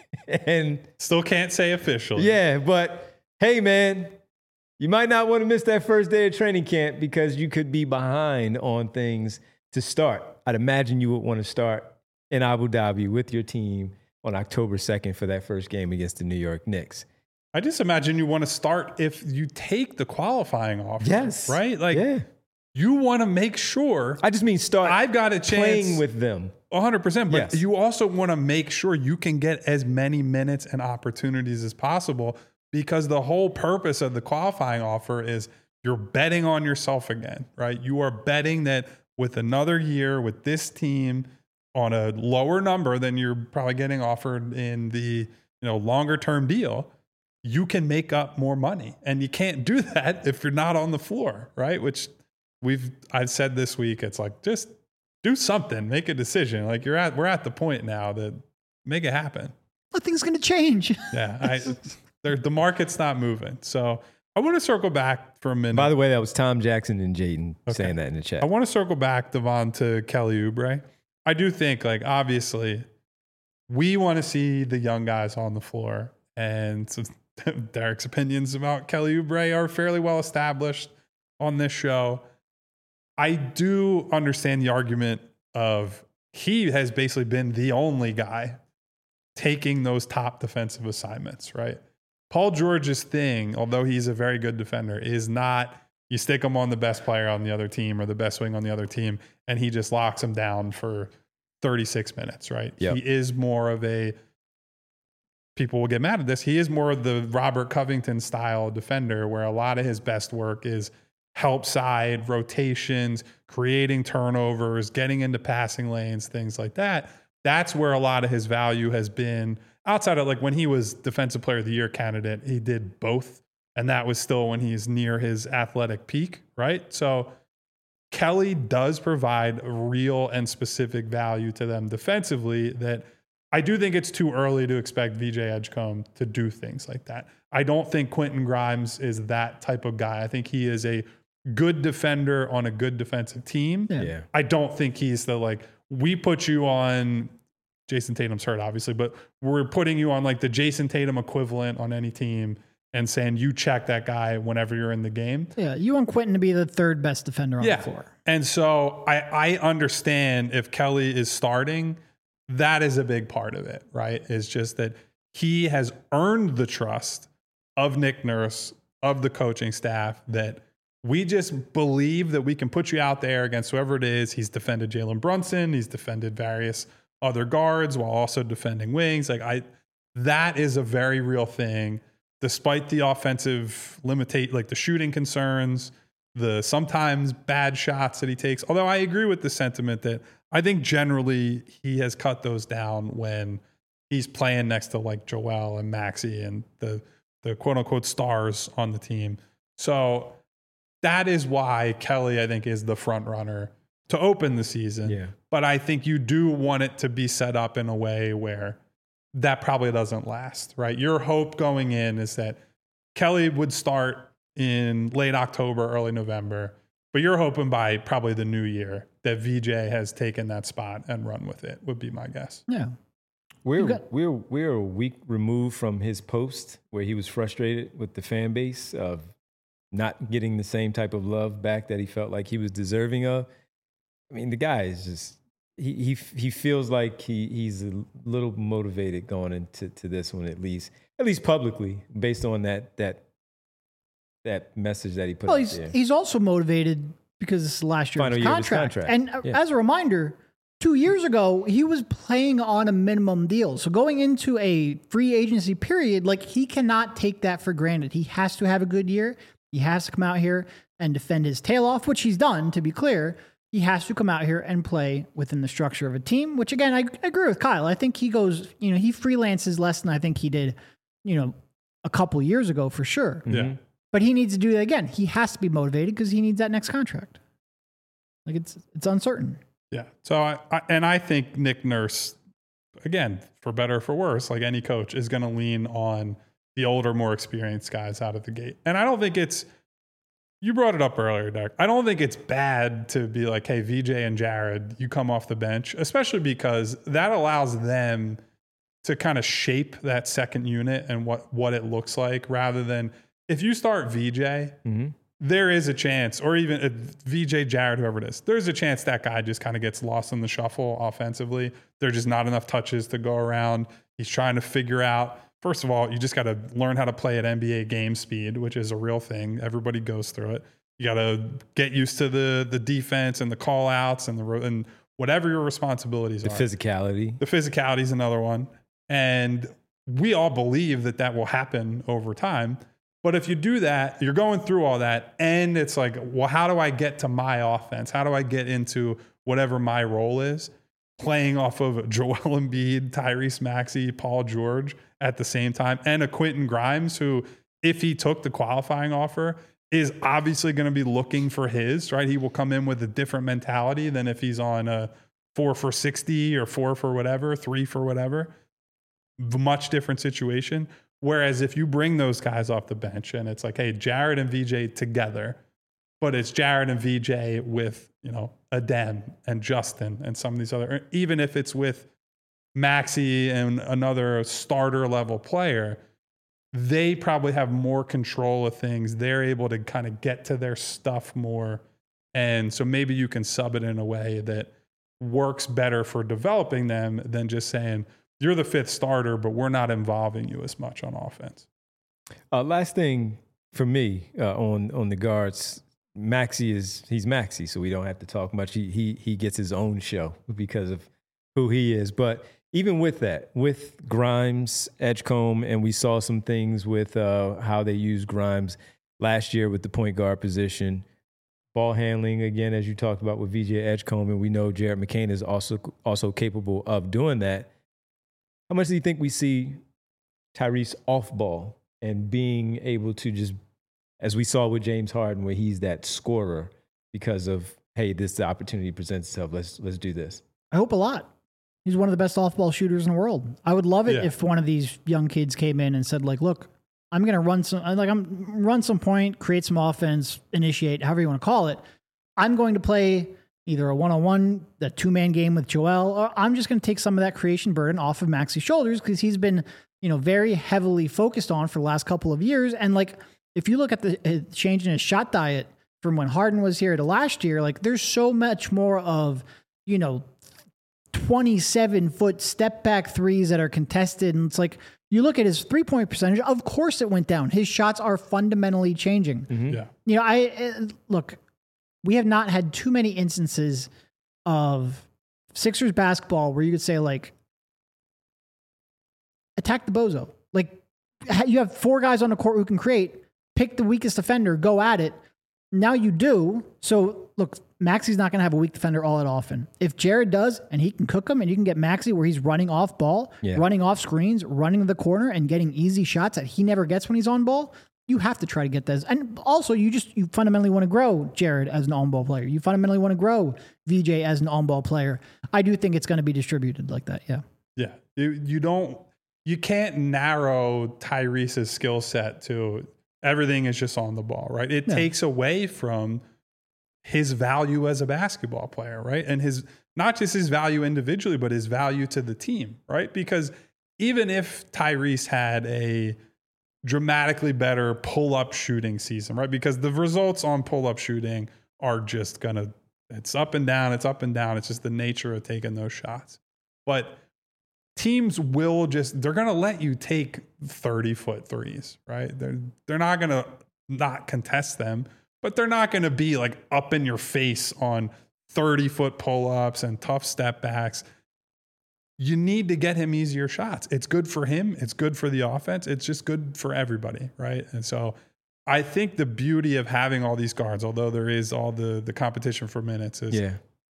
And still can't say officially. Yeah, but hey, man, you might not want to miss that first day of training camp because you could be behind on things to start. I'd imagine you would want to start in Abu Dhabi with your team on October second for that first game against the New York Knicks. I just imagine you want to start if you take the qualifying offer. Yes. Right? Like, yeah. you want to make sure. I just mean start I've got a chance playing with them. one hundred percent. But Yes. you also want to make sure you can get as many minutes and opportunities as possible, because the whole purpose of the qualifying offer is you're betting on yourself again, right? You are betting that with another year with this team on a lower number than you're probably getting offered in the, you know, longer term deal, you can make up more money. And you can't do that if you're not on the floor, right? Which we've I've said this week, it's like, just do something, make a decision. Like you're at we're at the point now that make it happen. Nothing's going to change. Yeah, I, the market's not moving. So I want to circle back for a minute. By the way, that was Tom Jackson and Jaden Okay. saying that in the chat. I want to circle back, Devon, to Kelly Oubre. I do think, like, obviously, we want to see the young guys on the floor. And so Derek's opinions about Kelly Oubre are fairly well established on this show. I do understand the argument of he has basically been the only guy taking those top defensive assignments, right? Paul George's thing, although he's a very good defender, is not you stick him on the best player on the other team or the best wing on the other team, and he just locks him down for thirty-six minutes, right? Yep. He is more of a, people will get mad at this, he is more of the Robert Covington style defender where a lot of his best work is help side, rotations, creating turnovers, getting into passing lanes, things like that. That's where a lot of his value has been. Outside of, like, when he was Defensive Player of the Year candidate, he did both. And that was still when he's near his athletic peak, right? So Kelly does provide real and specific value to them defensively that I do think it's too early to expect V J Edgecombe to do things like that. I don't think Quentin Grimes is that type of guy. I think he is a good defender on a good defensive team. Yeah. Yeah. I don't think he's the, like, we put you on, Jason Tatum's hurt obviously, but we're putting you on like the Jason Tatum equivalent on any team and saying you check that guy whenever you're in the game. Yeah, you want Quentin to be the third best defender on Yeah. the floor. And so I, I understand if Kelly is starting, that is a big part of it, right? It's just that he has earned the trust of Nick Nurse, of the coaching staff, that we just believe that we can put you out there against whoever it is. He's defended Jalen Brunson. He's defended various other guards while also defending wings. Like I, that is a very real thing, despite the offensive limitate, like the shooting concerns, the sometimes bad shots that he takes. Although I agree with the sentiment that I think generally he has cut those down when he's playing next to like Joel and Maxey and the, the quote unquote stars on the team. So that is why Kelly, I think, is the front runner to open the season. Yeah. But I think you do want it to be set up in a way where that probably doesn't last, right? Your hope going in is that Kelly would start in late October, early November, but you're hoping by probably the new year that V J has taken that spot and run with it, would be my guess. Yeah. We're got- we're we're a week removed from his post where he was frustrated with the fan base of not getting the same type of love back that he felt like he was deserving of. I mean, the guy is just he he he feels like he he's a little motivated going into to this one, at least at least publicly, based on that that that message that he put Well, out he's there. he's also motivated because this is the last year of Final his year of his contract. contract. And uh, Yeah. as a reminder, two years ago, he was playing on a minimum deal. So going into a free agency period, like he cannot take that for granted. He has to have a good year. He has to come out here and defend his tail off, which he's done, to be clear. He he has to come out here and play within the structure of a team, which again, I, I agree with Kyle. I think he goes, you know, he freelances less than I think he did, you know, a couple years ago for sure. Yeah. But he needs to do that again. He has to be motivated because he needs that next contract. Like it's, it's uncertain. Yeah. So I, I and I think Nick Nurse, again, for better or for worse, like any coach, is going to lean on the older, more experienced guys out of the gate. And I don't think it's, you brought it up earlier, Doug. I don't think it's bad to be like, hey, V J and Jared, you come off the bench, especially because that allows them to kind of shape that second unit and what, what it looks like, rather than if you start V J, mm-hmm. there is a chance, or even uh, V J, Jared, whoever it is, there's a chance that guy just kind of gets lost in the shuffle offensively. There's just not enough touches to go around. He's trying to figure out, first of all, you just got to learn how to play at N B A game speed, which is a real thing. Everybody goes through it. You got to get used to the the defense and the call outs and the and whatever your responsibilities the are. The physicality. The physicality is another one. And we all believe that that will happen over time. But if you do that, you're going through all that, and it's like, well, how do I get to my offense? How do I get into whatever my role is? Playing off of Joel Embiid, Tyrese Maxey, Paul George at the same time, and a Quentin Grimes who, if he took the qualifying offer, is obviously going to be looking for his, right? He will come in with a different mentality than if he's on a four for sixty or four for whatever, three for whatever. Much different situation. Whereas if you bring those guys off the bench and it's like, hey, Jared and V J together, but it's Jared and V J with, you know, Adem and Justin and some of these other, even if it's with Maxey and another starter level player, they probably have more control of things. They're able to kind of get to their stuff more. And so maybe you can sub it in a way that works better for developing them than just saying, you're the fifth starter, but we're not involving you as much on offense. Uh, last thing for me uh, on on the guards, Maxey is he's Maxey, so we don't have to talk much. He he he gets his own show because of who he is. But even with that, with Grimes, Edgecombe, and we saw some things with uh, how they used Grimes last year with the point guard position, ball handling again, as you talked about with V J Edgecombe, and we know Jared McCain is also also capable of doing that. How much do you think we see Tyrese off ball and being able to just, as we saw with James Harden, where he's that scorer because of, hey, this the opportunity presents itself. Let's let's do this. I hope a lot. He's one of the best off ball shooters in the world. I would love it yeah. if one of these young kids came in and said, like, look, I'm going to run some, like, I'm run some point, create some offense, initiate, however you want to call it. I'm going to play either a one-on-one, a two-man game with Joel, or I'm just going to take some of that creation burden off of Maxey's shoulders because he's been, you know, very heavily focused on for the last couple of years. And like, if you look at the uh, change in his shot diet from when Harden was here to last year, like there's so much more of, you know, twenty-seven foot step back threes that are contested. And it's like, you look at his three point percentage, of course it went down. His shots are fundamentally changing. Mm-hmm. Yeah. You know, I uh, look, we have not had too many instances of Sixers basketball where you could say, like, attack the bozo. Like, you have four guys on the court who can create, pick the weakest defender, go at it. Now you do. So, look, Maxey's not going to have a weak defender all that often. If Jared does, and he can cook him, and you can get Maxey where he's running off ball, yeah. running off screens, running the corner, and getting easy shots that he never gets when he's on ball, you have to try to get those. And also, you just you fundamentally want to grow Jared as an on-ball player. You fundamentally want to grow V J as an on-ball player. I do think it's going to be distributed like that, yeah. Yeah. You, you don't, you can't narrow Tyrese's skill set to everything is just on the ball, right? It yeah. takes away from his value as a basketball player, right? And his, not just his value individually, but his value to the team, right? Because even if Tyrese had a dramatically better pull-up shooting season, right? Because the results on pull-up shooting are just gonna, it's up and down, it's up and down. It's just the nature of taking those shots. But teams will just, they're gonna let you take thirty-foot threes, right? They're, they're not gonna not contest them, but they're not gonna be like up in your face on thirty-foot pull-ups and tough step backs. You need to get him easier shots. It's good for him. It's good for the offense. It's just good for everybody, right? And so I think the beauty of having all these guards, although there is all the, the competition for minutes, is yeah.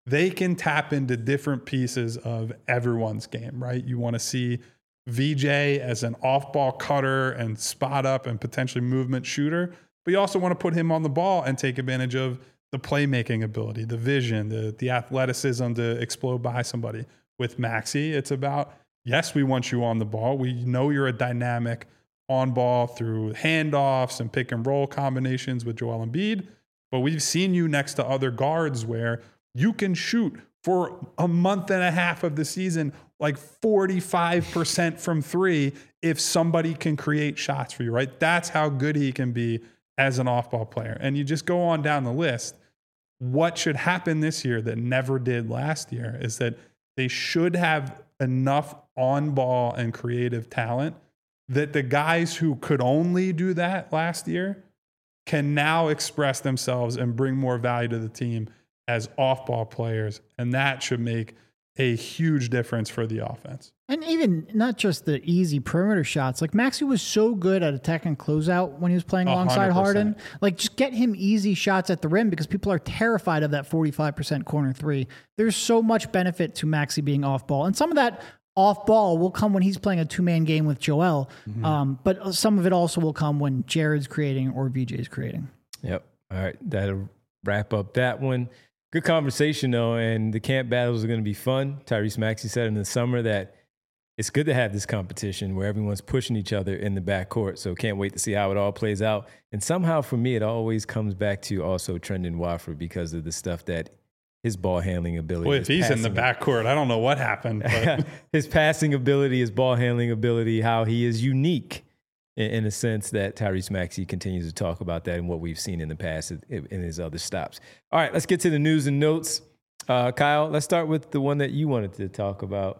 they can tap into different pieces of everyone's game, right? You want to see V J as an off-ball cutter and spot up and potentially movement shooter, but you also want to put him on the ball and take advantage of the playmaking ability, the vision, the, the athleticism to explode by somebody. With Maxey, it's about, yes, we want you on the ball. We know you're a dynamic on ball through handoffs and pick and roll combinations with Joel Embiid, but we've seen you next to other guards where you can shoot for a month and a half of the season like forty-five percent from three if somebody can create shots for you, right? That's how good he can be as an off-ball player. And you just go on down the list. What should happen this year that never did last year is that they should have enough on-ball and creative talent that the guys who could only do that last year can now express themselves and bring more value to the team as off-ball players. And that should make a huge difference for the offense. And even not just the easy perimeter shots. Like Maxey was so good at attack and closeout when he was playing alongside one hundred percent. Harden. Like just get him easy shots at the rim because people are terrified of that forty-five percent corner three. There's so much benefit to Maxey being off ball. And some of that off ball will come when he's playing a two-man game with Joel. Mm-hmm. Um, but some of it also will come when Jared's creating or V J's creating. Yep. All right. That'll wrap up that one. Good conversation, though, and the camp battles are going to be fun. Tyrese Maxey said in the summer that it's good to have this competition where everyone's pushing each other in the backcourt, so can't wait to see how it all plays out. And somehow, for me, it always comes back to also Trendon Watford because of the stuff that his ball handling ability. Well, if he's in the backcourt, I don't know what happened. But. His passing ability, his ball handling ability, how he is unique in, in a sense that Tyrese Maxey continues to talk about that and what we've seen in the past in, in his other stops. All right, let's get to the news and notes. Uh, Kyle, let's start with the one that you wanted to talk about.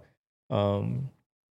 Um,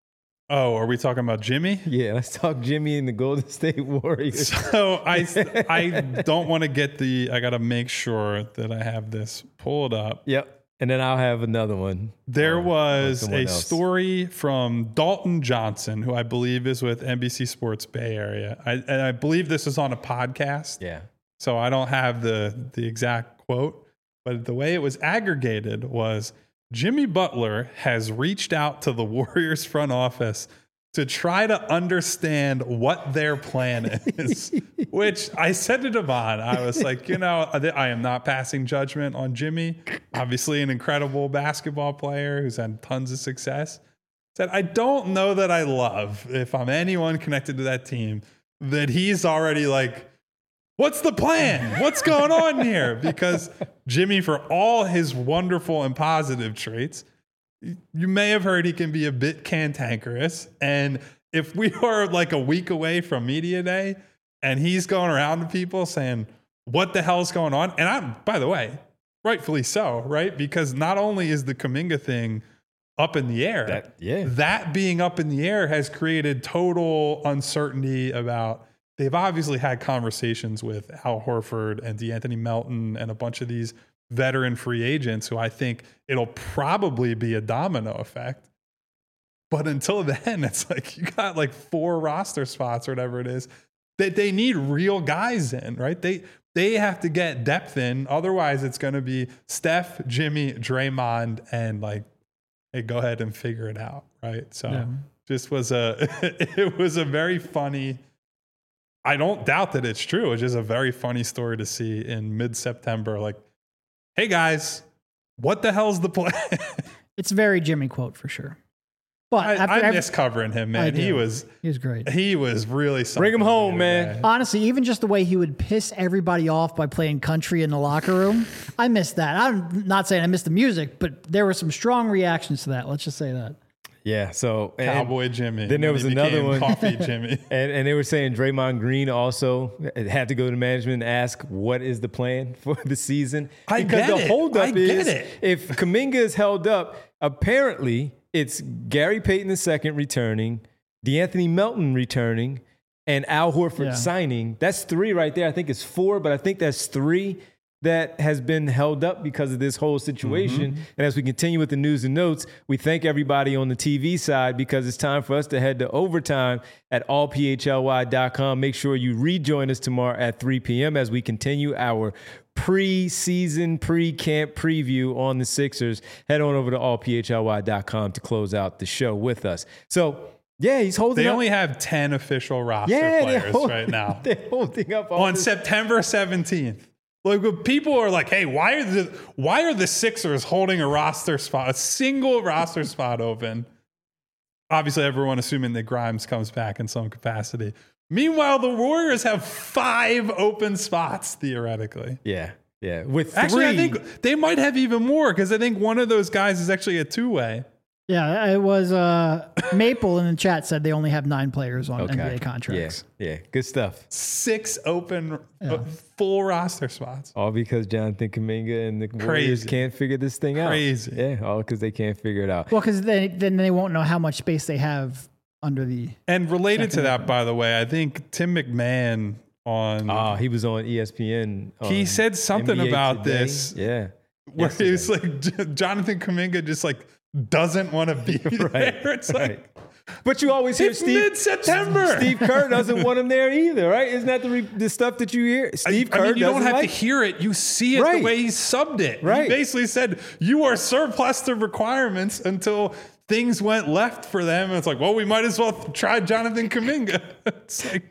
oh, are we talking about Jimmy? Yeah, let's talk Jimmy and the Golden State Warriors. So I, I don't want to get the, I got to make sure that I have this pulled up. Yep. And then I'll have another one. There uh, was a else. story from Dalton Johnson, who I believe is with N B C Sports Bay Area. I, and I believe this is on a podcast. Yeah. So I don't have the, the exact quote, but the way it was aggregated was Jimmy Butler has reached out to the Warriors front office to try to understand what their plan is, which I said to Devon, I was like, you know, I am not passing judgment on Jimmy, obviously an incredible basketball player who's had tons of success. Said, I don't know that I love, if I'm anyone connected to that team, that he's already like, what's the plan? What's going on here? Because Jimmy, for all his wonderful and positive traits, you may have heard he can be a bit cantankerous. And if we are like a week away from media day and he's going around to people saying, what the hell's going on? And I'm, by the way, rightfully so, right? Because not only is the Kuminga thing up in the air, that, yeah. that being up in the air has created total uncertainty about, they've obviously had conversations with Al Horford and DeAnthony Melton and a bunch of these veteran free agents who I think it'll probably be a domino effect. But until then, it's like you got like four roster spots or whatever it is that they need real guys in, right? They they have to get depth in. Otherwise, it's going to be Steph, Jimmy, Draymond, and like, hey, go ahead and figure it out, right? So Yeah. just was a it was a very funny. I don't doubt that it's true. It's just a very funny story to see in mid-September. Like, hey guys, what the hell's the plan? It's a very Jimmy quote for sure. But I, after I every- miss covering him, I man. do. He was he was great. he was really something. Bring him home, the man. other day. Honestly, even just the way he would piss everybody off by playing country in the locker room, I missed that. I'm not saying I missed the music, but there were some strong reactions to that. Let's just say that. Yeah, so and, Cowboy Jimmy. Then there When was he another became one. Coffee Jimmy. And, and they were saying Draymond Green also had to go to management and ask what is the plan for the season. I because get the it. holdup I get is it. if Kuminga is held up, apparently it's Gary Payton the second returning, DeAnthony Melton returning, and Al Horford Yeah. signing. That's three right there. I think it's four, but I think that's three. that has been held up because of this whole situation. Mm-hmm. And as we continue with the news and notes, we thank everybody on the T V side because it's time for us to head to overtime at all p h l y dot com. Make sure you rejoin us tomorrow at three p.m. as we continue our pre-season, pre-camp preview on the Sixers. Head on over to all p h l y dot com to close out the show with us. So, yeah, he's holding They up. only have ten official roster yeah, players holding, right now. They're holding up all on this. September seventeenth. Like, people are like, hey, why are the why are the Sixers holding a roster spot, a single roster spot open? Obviously, everyone assuming that Grimes comes back in some capacity. Meanwhile, the Warriors have five open spots, theoretically. Yeah, yeah. With three. Actually, I think they might have even more because I think one of those guys is actually a two-way. Yeah, it was uh, Maple in the chat said they only have nine players on okay. N B A contracts. Yeah, yeah, good stuff. Six open Yeah. uh, full roster spots. All because Jonathan Kuminga and the Crazy. Warriors can't figure this thing out. Crazy. Yeah, all because they can't figure it out. Well, because they, then they won't know how much space they have under the. And related to that, by the way, I think Tim McMahon on Oh, he was on E S P N. he on said something N B A about Today. this. Yeah. Where he was like, Jonathan Kuminga just like doesn't want to be Right, there. It's right. like, But you always hear it's Steve mid-September. Steve Kerr doesn't want him there either, right? Isn't that the re, the stuff that you hear? Steve I, Kerr I mean, you don't doesn't have like to hear it. You see it Right. the way he subbed it. Right. He basically said, you are surplus to requirements until things went left for them. And it's like, well, we might as well try Jonathan Kuminga. It's like,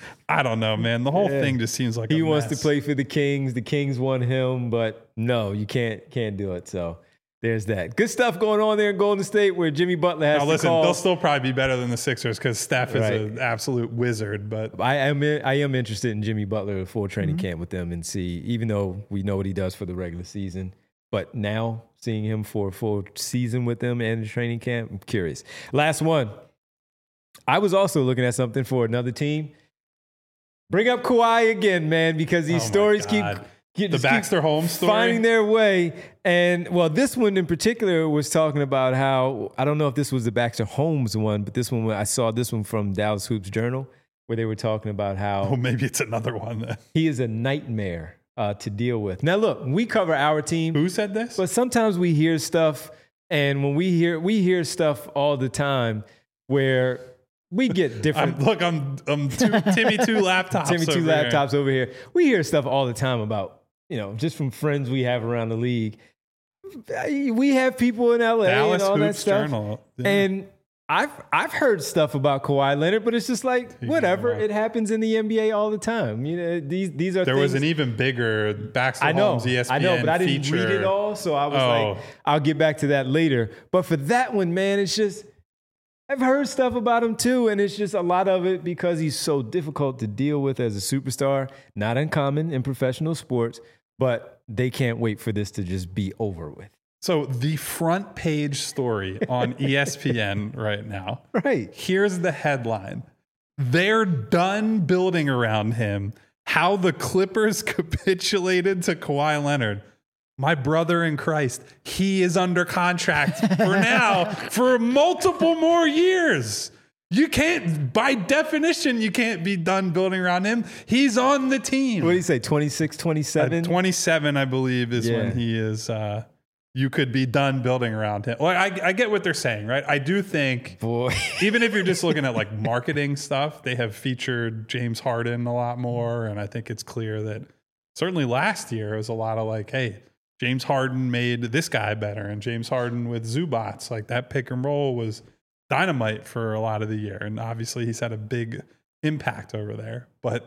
I don't know, man. The whole Yeah. thing just seems like He a wants mess. to play for the Kings. The Kings want him, but no, you can't can't do it. So there's that. Good stuff going on there in Golden State where Jimmy Butler has Now, to listen, call. they'll still probably be better than the Sixers because Steph is Right. an absolute wizard. But I am I am interested in Jimmy Butler full training camp with them and see, even though we know what he does for the regular season, but now seeing him for a full season with them and the training camp, I'm curious. Last one. I was also looking at something for another team. Bring up Kawhi again, man, because these Oh my stories keep, God. keep the just keep Baxter Holmes story. finding their way. And well, this one in particular was talking about how, I don't know if this was the Baxter Holmes one, but this one, I saw this one from Dallas Hoops Journal where they were talking about how Oh, maybe it's another one then. he is a nightmare uh, to deal with. Now, look, we cover our team, Who said this? but sometimes we hear stuff, and when we hear we hear stuff all the time where we get different. I'm, look, I'm, I'm two, Timmy two laptops. Timmy two over here. laptops over here. We hear stuff all the time about, you know, just from friends we have around the league. We have people in L A Dallas and all that Hoops stuff. Journal. Yeah. And I've I've heard stuff about Kawhi Leonard, but it's just like He whatever. can walk. It happens in the N B A all the time. You know, these these are there things, was an even bigger Baxter I know, Holmes E S P N I know, but I didn't feature. read it all, so I was Oh. like, I'll get back to that later. But for that one, man, it's just I've heard stuff about him too, and it's just a lot of it because he's so difficult to deal with as a superstar. Not uncommon in professional sports, but they can't wait for this to just be over with. So the front page story on E S P N right now. Right. Here's the headline. They're done building around him. How the Clippers capitulated to Kawhi Leonard. My brother in Christ, he is under contract for now for multiple more years. You can't, by definition, you can't be done building around him. He's on the team. What do you say, twenty-six, twenty-seven? Uh, twenty-seven, I believe, is Yeah. when he is. Uh, you could be done building around him. Well, I, I get what they're saying, right? I do think, Boy. even if you're just looking at like marketing stuff, they have featured James Harden a lot more, and I think it's clear that certainly last year it was a lot of like, hey, James Harden made this guy better, and James Harden with Zubats, like that pick and roll was dynamite for a lot of the year, and obviously he's had a big impact over there. But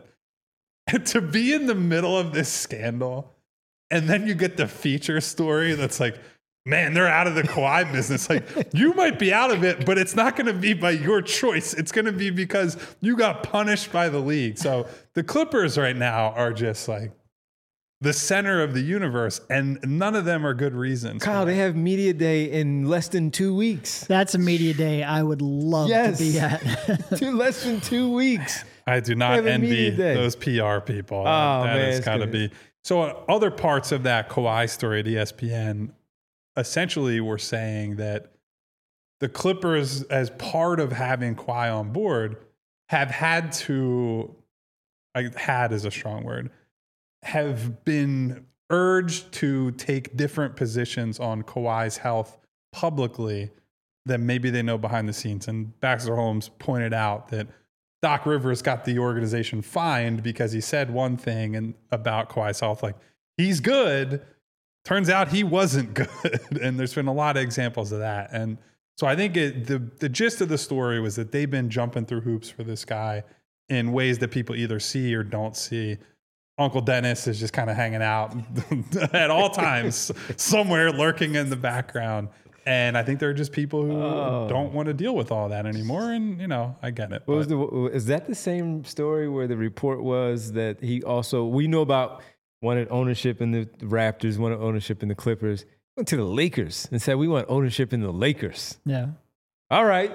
to be in the middle of this scandal, and then you get the feature story that's like, man, they're out of the Kawhi business. Like, you might be out of it, but it's not going to be by your choice. It's going to be because you got punished by the league. So the Clippers right now are just like the center of the universe, and none of them are good reasons. Kyle, they have media day in less than two weeks. That's a media day I would love Yes. to be at. Two less than two weeks. I do They not have a envy media day. those P R people. Oh, that man, has it's got to gonna- be. So uh, other parts of that Kawhi story at E S P N essentially were saying that the Clippers, as part of having Kawhi on board, have had to, I, had is a strong word, have been urged to take different positions on Kawhi's health publicly than maybe they know behind the scenes. And Baxter Holmes pointed out that Doc Rivers got the organization fined because he said one thing and about Kawhi's health, like he's good. Turns out he wasn't good. And there's been a lot of examples of that. And so I think it, the, the gist of the story was that they've been jumping through hoops for this guy in ways that people either see or don't see. Uncle Dennis is just kind of hanging out at all times, somewhere lurking in the background. And I think there are just people who oh. don't want to deal with all that anymore. And, you know, I get it. What was the, is that the same story where the report was that he also, we know about wanted ownership in the Raptors, wanted ownership in the Clippers, went to the Lakers and said, we want ownership in the Lakers. Yeah. All right.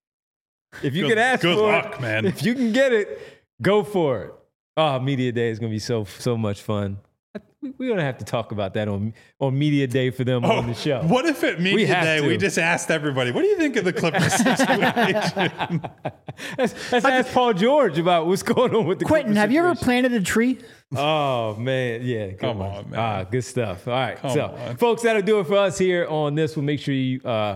If you good, can ask good for luck, it, man. If you can get it, go for it. Oh, Media Day is going to be so so much fun. We're going to have to talk about that on on Media Day for them oh, on the show. What if at Media Day to. we just asked everybody, what do you think of the Clippers situation? let's let's ask Paul George about what's going on with the Quentin, Clippers have situation. you ever planted a tree? Oh, man. Yeah. Come one. on, man. Ah, good stuff. All right. Come so, on. folks, that'll do it for us here on this. We'll make sure you, uh,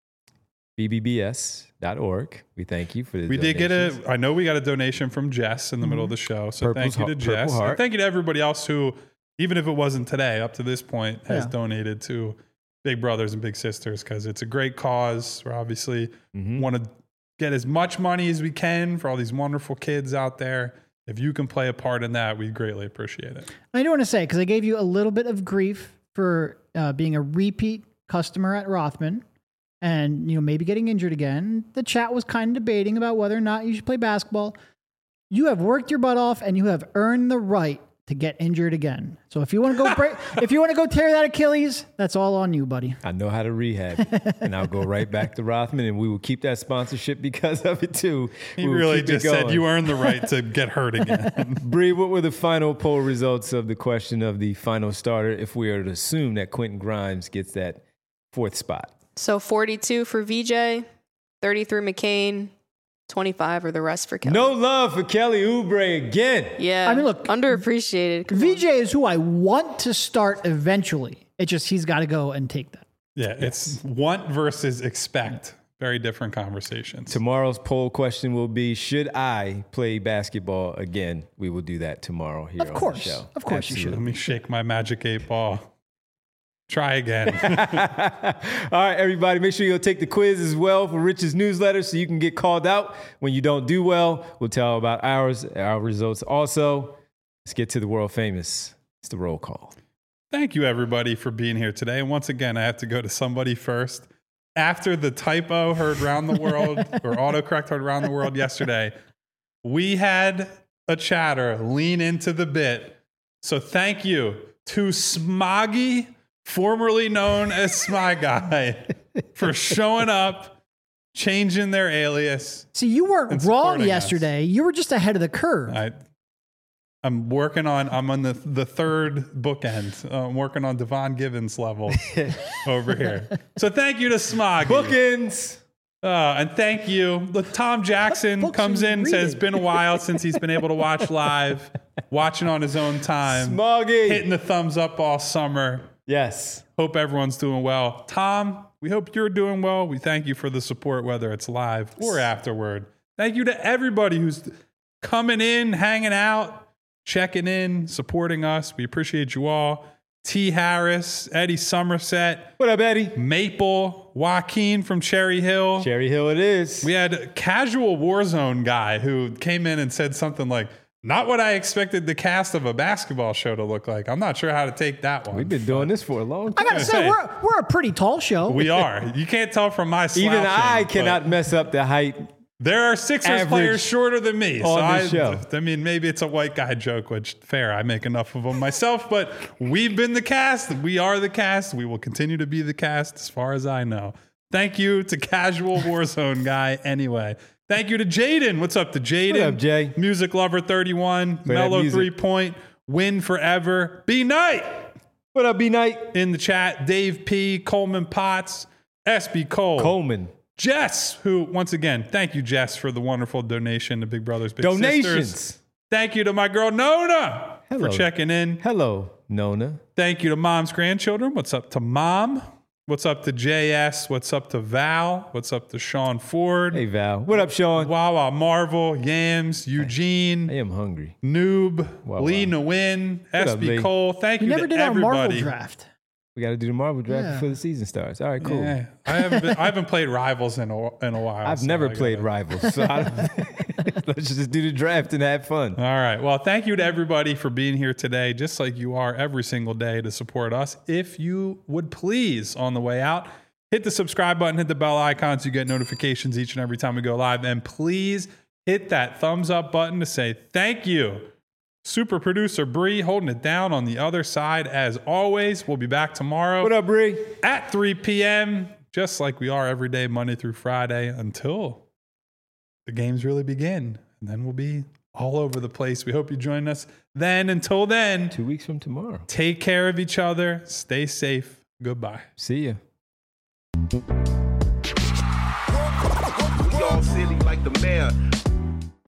B B B S dot org. We thank you for the We donations. did get a, I know we got a donation from Jess in the mm-hmm. middle of the show. So Purple's thank you to Purple Jess. Heart. And thank you to everybody else who, even if it wasn't today, up to this point, has Yeah. donated to Big Brothers and Big Sisters because it's a great cause. We obviously mm-hmm. want to get as much money as we can for all these wonderful kids out there. If you can play a part in that, we greatly appreciate it. I do want to say, because I gave you a little bit of grief for uh, being a repeat customer at Rothman and, you know, maybe getting injured again. The chat was kind of debating about whether or not you should play basketball. You have worked your butt off and you have earned the right to get injured again. So if you want to go break, if you want to go tear that Achilles, that's all on you, buddy. I know how to rehab, and I'll go right back to Rothman, and we will keep that sponsorship because of it too. He we really just said you earned the right to get hurt again. Bree, what were the final poll results of the question of the final starter if we are to assume that Quentin Grimes gets that fourth spot? So forty-two for V J, thirty-three McCain, twenty-five or the rest for Kelly. No love for Kelly Oubre again. Yeah. I mean, look, underappreciated. Come V J on. is who I want to start eventually. It just, he's got to go and take that. Yeah, it's want versus expect. Very different conversations. Tomorrow's poll question will be, should I play basketball again? We will do that tomorrow here Of course. on the show. Of course you should. Let me shake my magic eight ball. Try again. All right, everybody, make sure you'll take the quiz as well for Rich's newsletter so you can get called out when you don't do well. We'll tell about ours, our results also. Let's get to the world famous. It's the roll call. Thank you, everybody, for being here today. And once again, I have to go to somebody first. After the typo heard around the world, or autocorrect heard around the world yesterday, we had a chatter lean into the bit. So thank you to Smoggy, formerly known as Smy Guy, for showing up, changing their alias. See, you weren't wrong us. yesterday. You were just ahead of the curve. I, I'm working on, I'm on the, the third bookend. Uh, I'm working on Devon Givens level over here. So thank you to Smoggy. Bookends. Uh, and thank you. Look, Tom Jackson books comes are you in and says, reading? been a while since he's been able to watch live, watching on his own time, Smoggy. hitting the thumbs up all summer. Yes. Hope everyone's doing well. Tom, we hope you're doing well. We thank you for the support, whether it's live or afterward. Thank you to everybody who's coming in, hanging out, checking in, supporting us. We appreciate you all. T. Harris, Eddie Somerset, What up, Eddie? Maple, Joaquin from Cherry Hill. Cherry Hill it is. We had a casual Warzone guy who came in and said something like, not what I expected the cast of a basketball show to look like. I'm not sure how to take that one. We've been doing this for a long I time. got to say, Hey. we're, we're a pretty tall show. We are. You can't tell from my slouching. Even I but cannot mess up the height. There are Sixers average players shorter than me. So on I, this show. I mean, maybe it's a white guy joke, which fair. I make enough of them myself, but we've been the cast. We are the cast. We will continue to be the cast as far as I know. Thank you to Casual Warzone guy anyway. Thank you to Jaden. What's up to Jaden? What up, Jay? Music Lover thirty-one, that Mellow music. Three Point, Win Forever, B Knight What up, B Knight? in the chat, Dave P, Coleman Potts, S B Cole, Coleman. Jess, who once again, thank you, Jess, for the wonderful donation to Big Brothers Big Donations. Sisters. Thank you to my girl Nona Hello. for checking in. Hello. Nona. Thank you to Mom's grandchildren. What's up to Mom? What's up to J S? What's up to Val? What's up to Sean Ford? Hey, Val. What up, Sean? Wawa Marvel, Yams, Eugene, I am hungry. Noob, Wow, Lee wow. Nguyen, What S up, B Lee? Cole. Thank We you never to did our Marvel everybody. draft. We got to do the Marvel draft Yeah. before the season starts. All right, cool. Yeah, I haven't been, I haven't played Rivals in a, in a while. I've so never I gotta- played Rivals, so I don't, let's just do the draft and have fun. All right. Well, thank you to everybody for being here today, just like you are every single day to support us. If you would please, on the way out, hit the subscribe button, hit the bell icon so you get notifications each and every time we go live. And please hit that thumbs up button to say thank you. Super producer Bree holding it down on the other side. As always, we'll be back tomorrow What up, Bree? at three p.m., just like we are every day, Monday through Friday, until the games really begin. And then we'll be all over the place. We hope you join us then. Until then, Two weeks from tomorrow. take care of each other. Stay safe. Goodbye. See ya. We all silly like the mayor.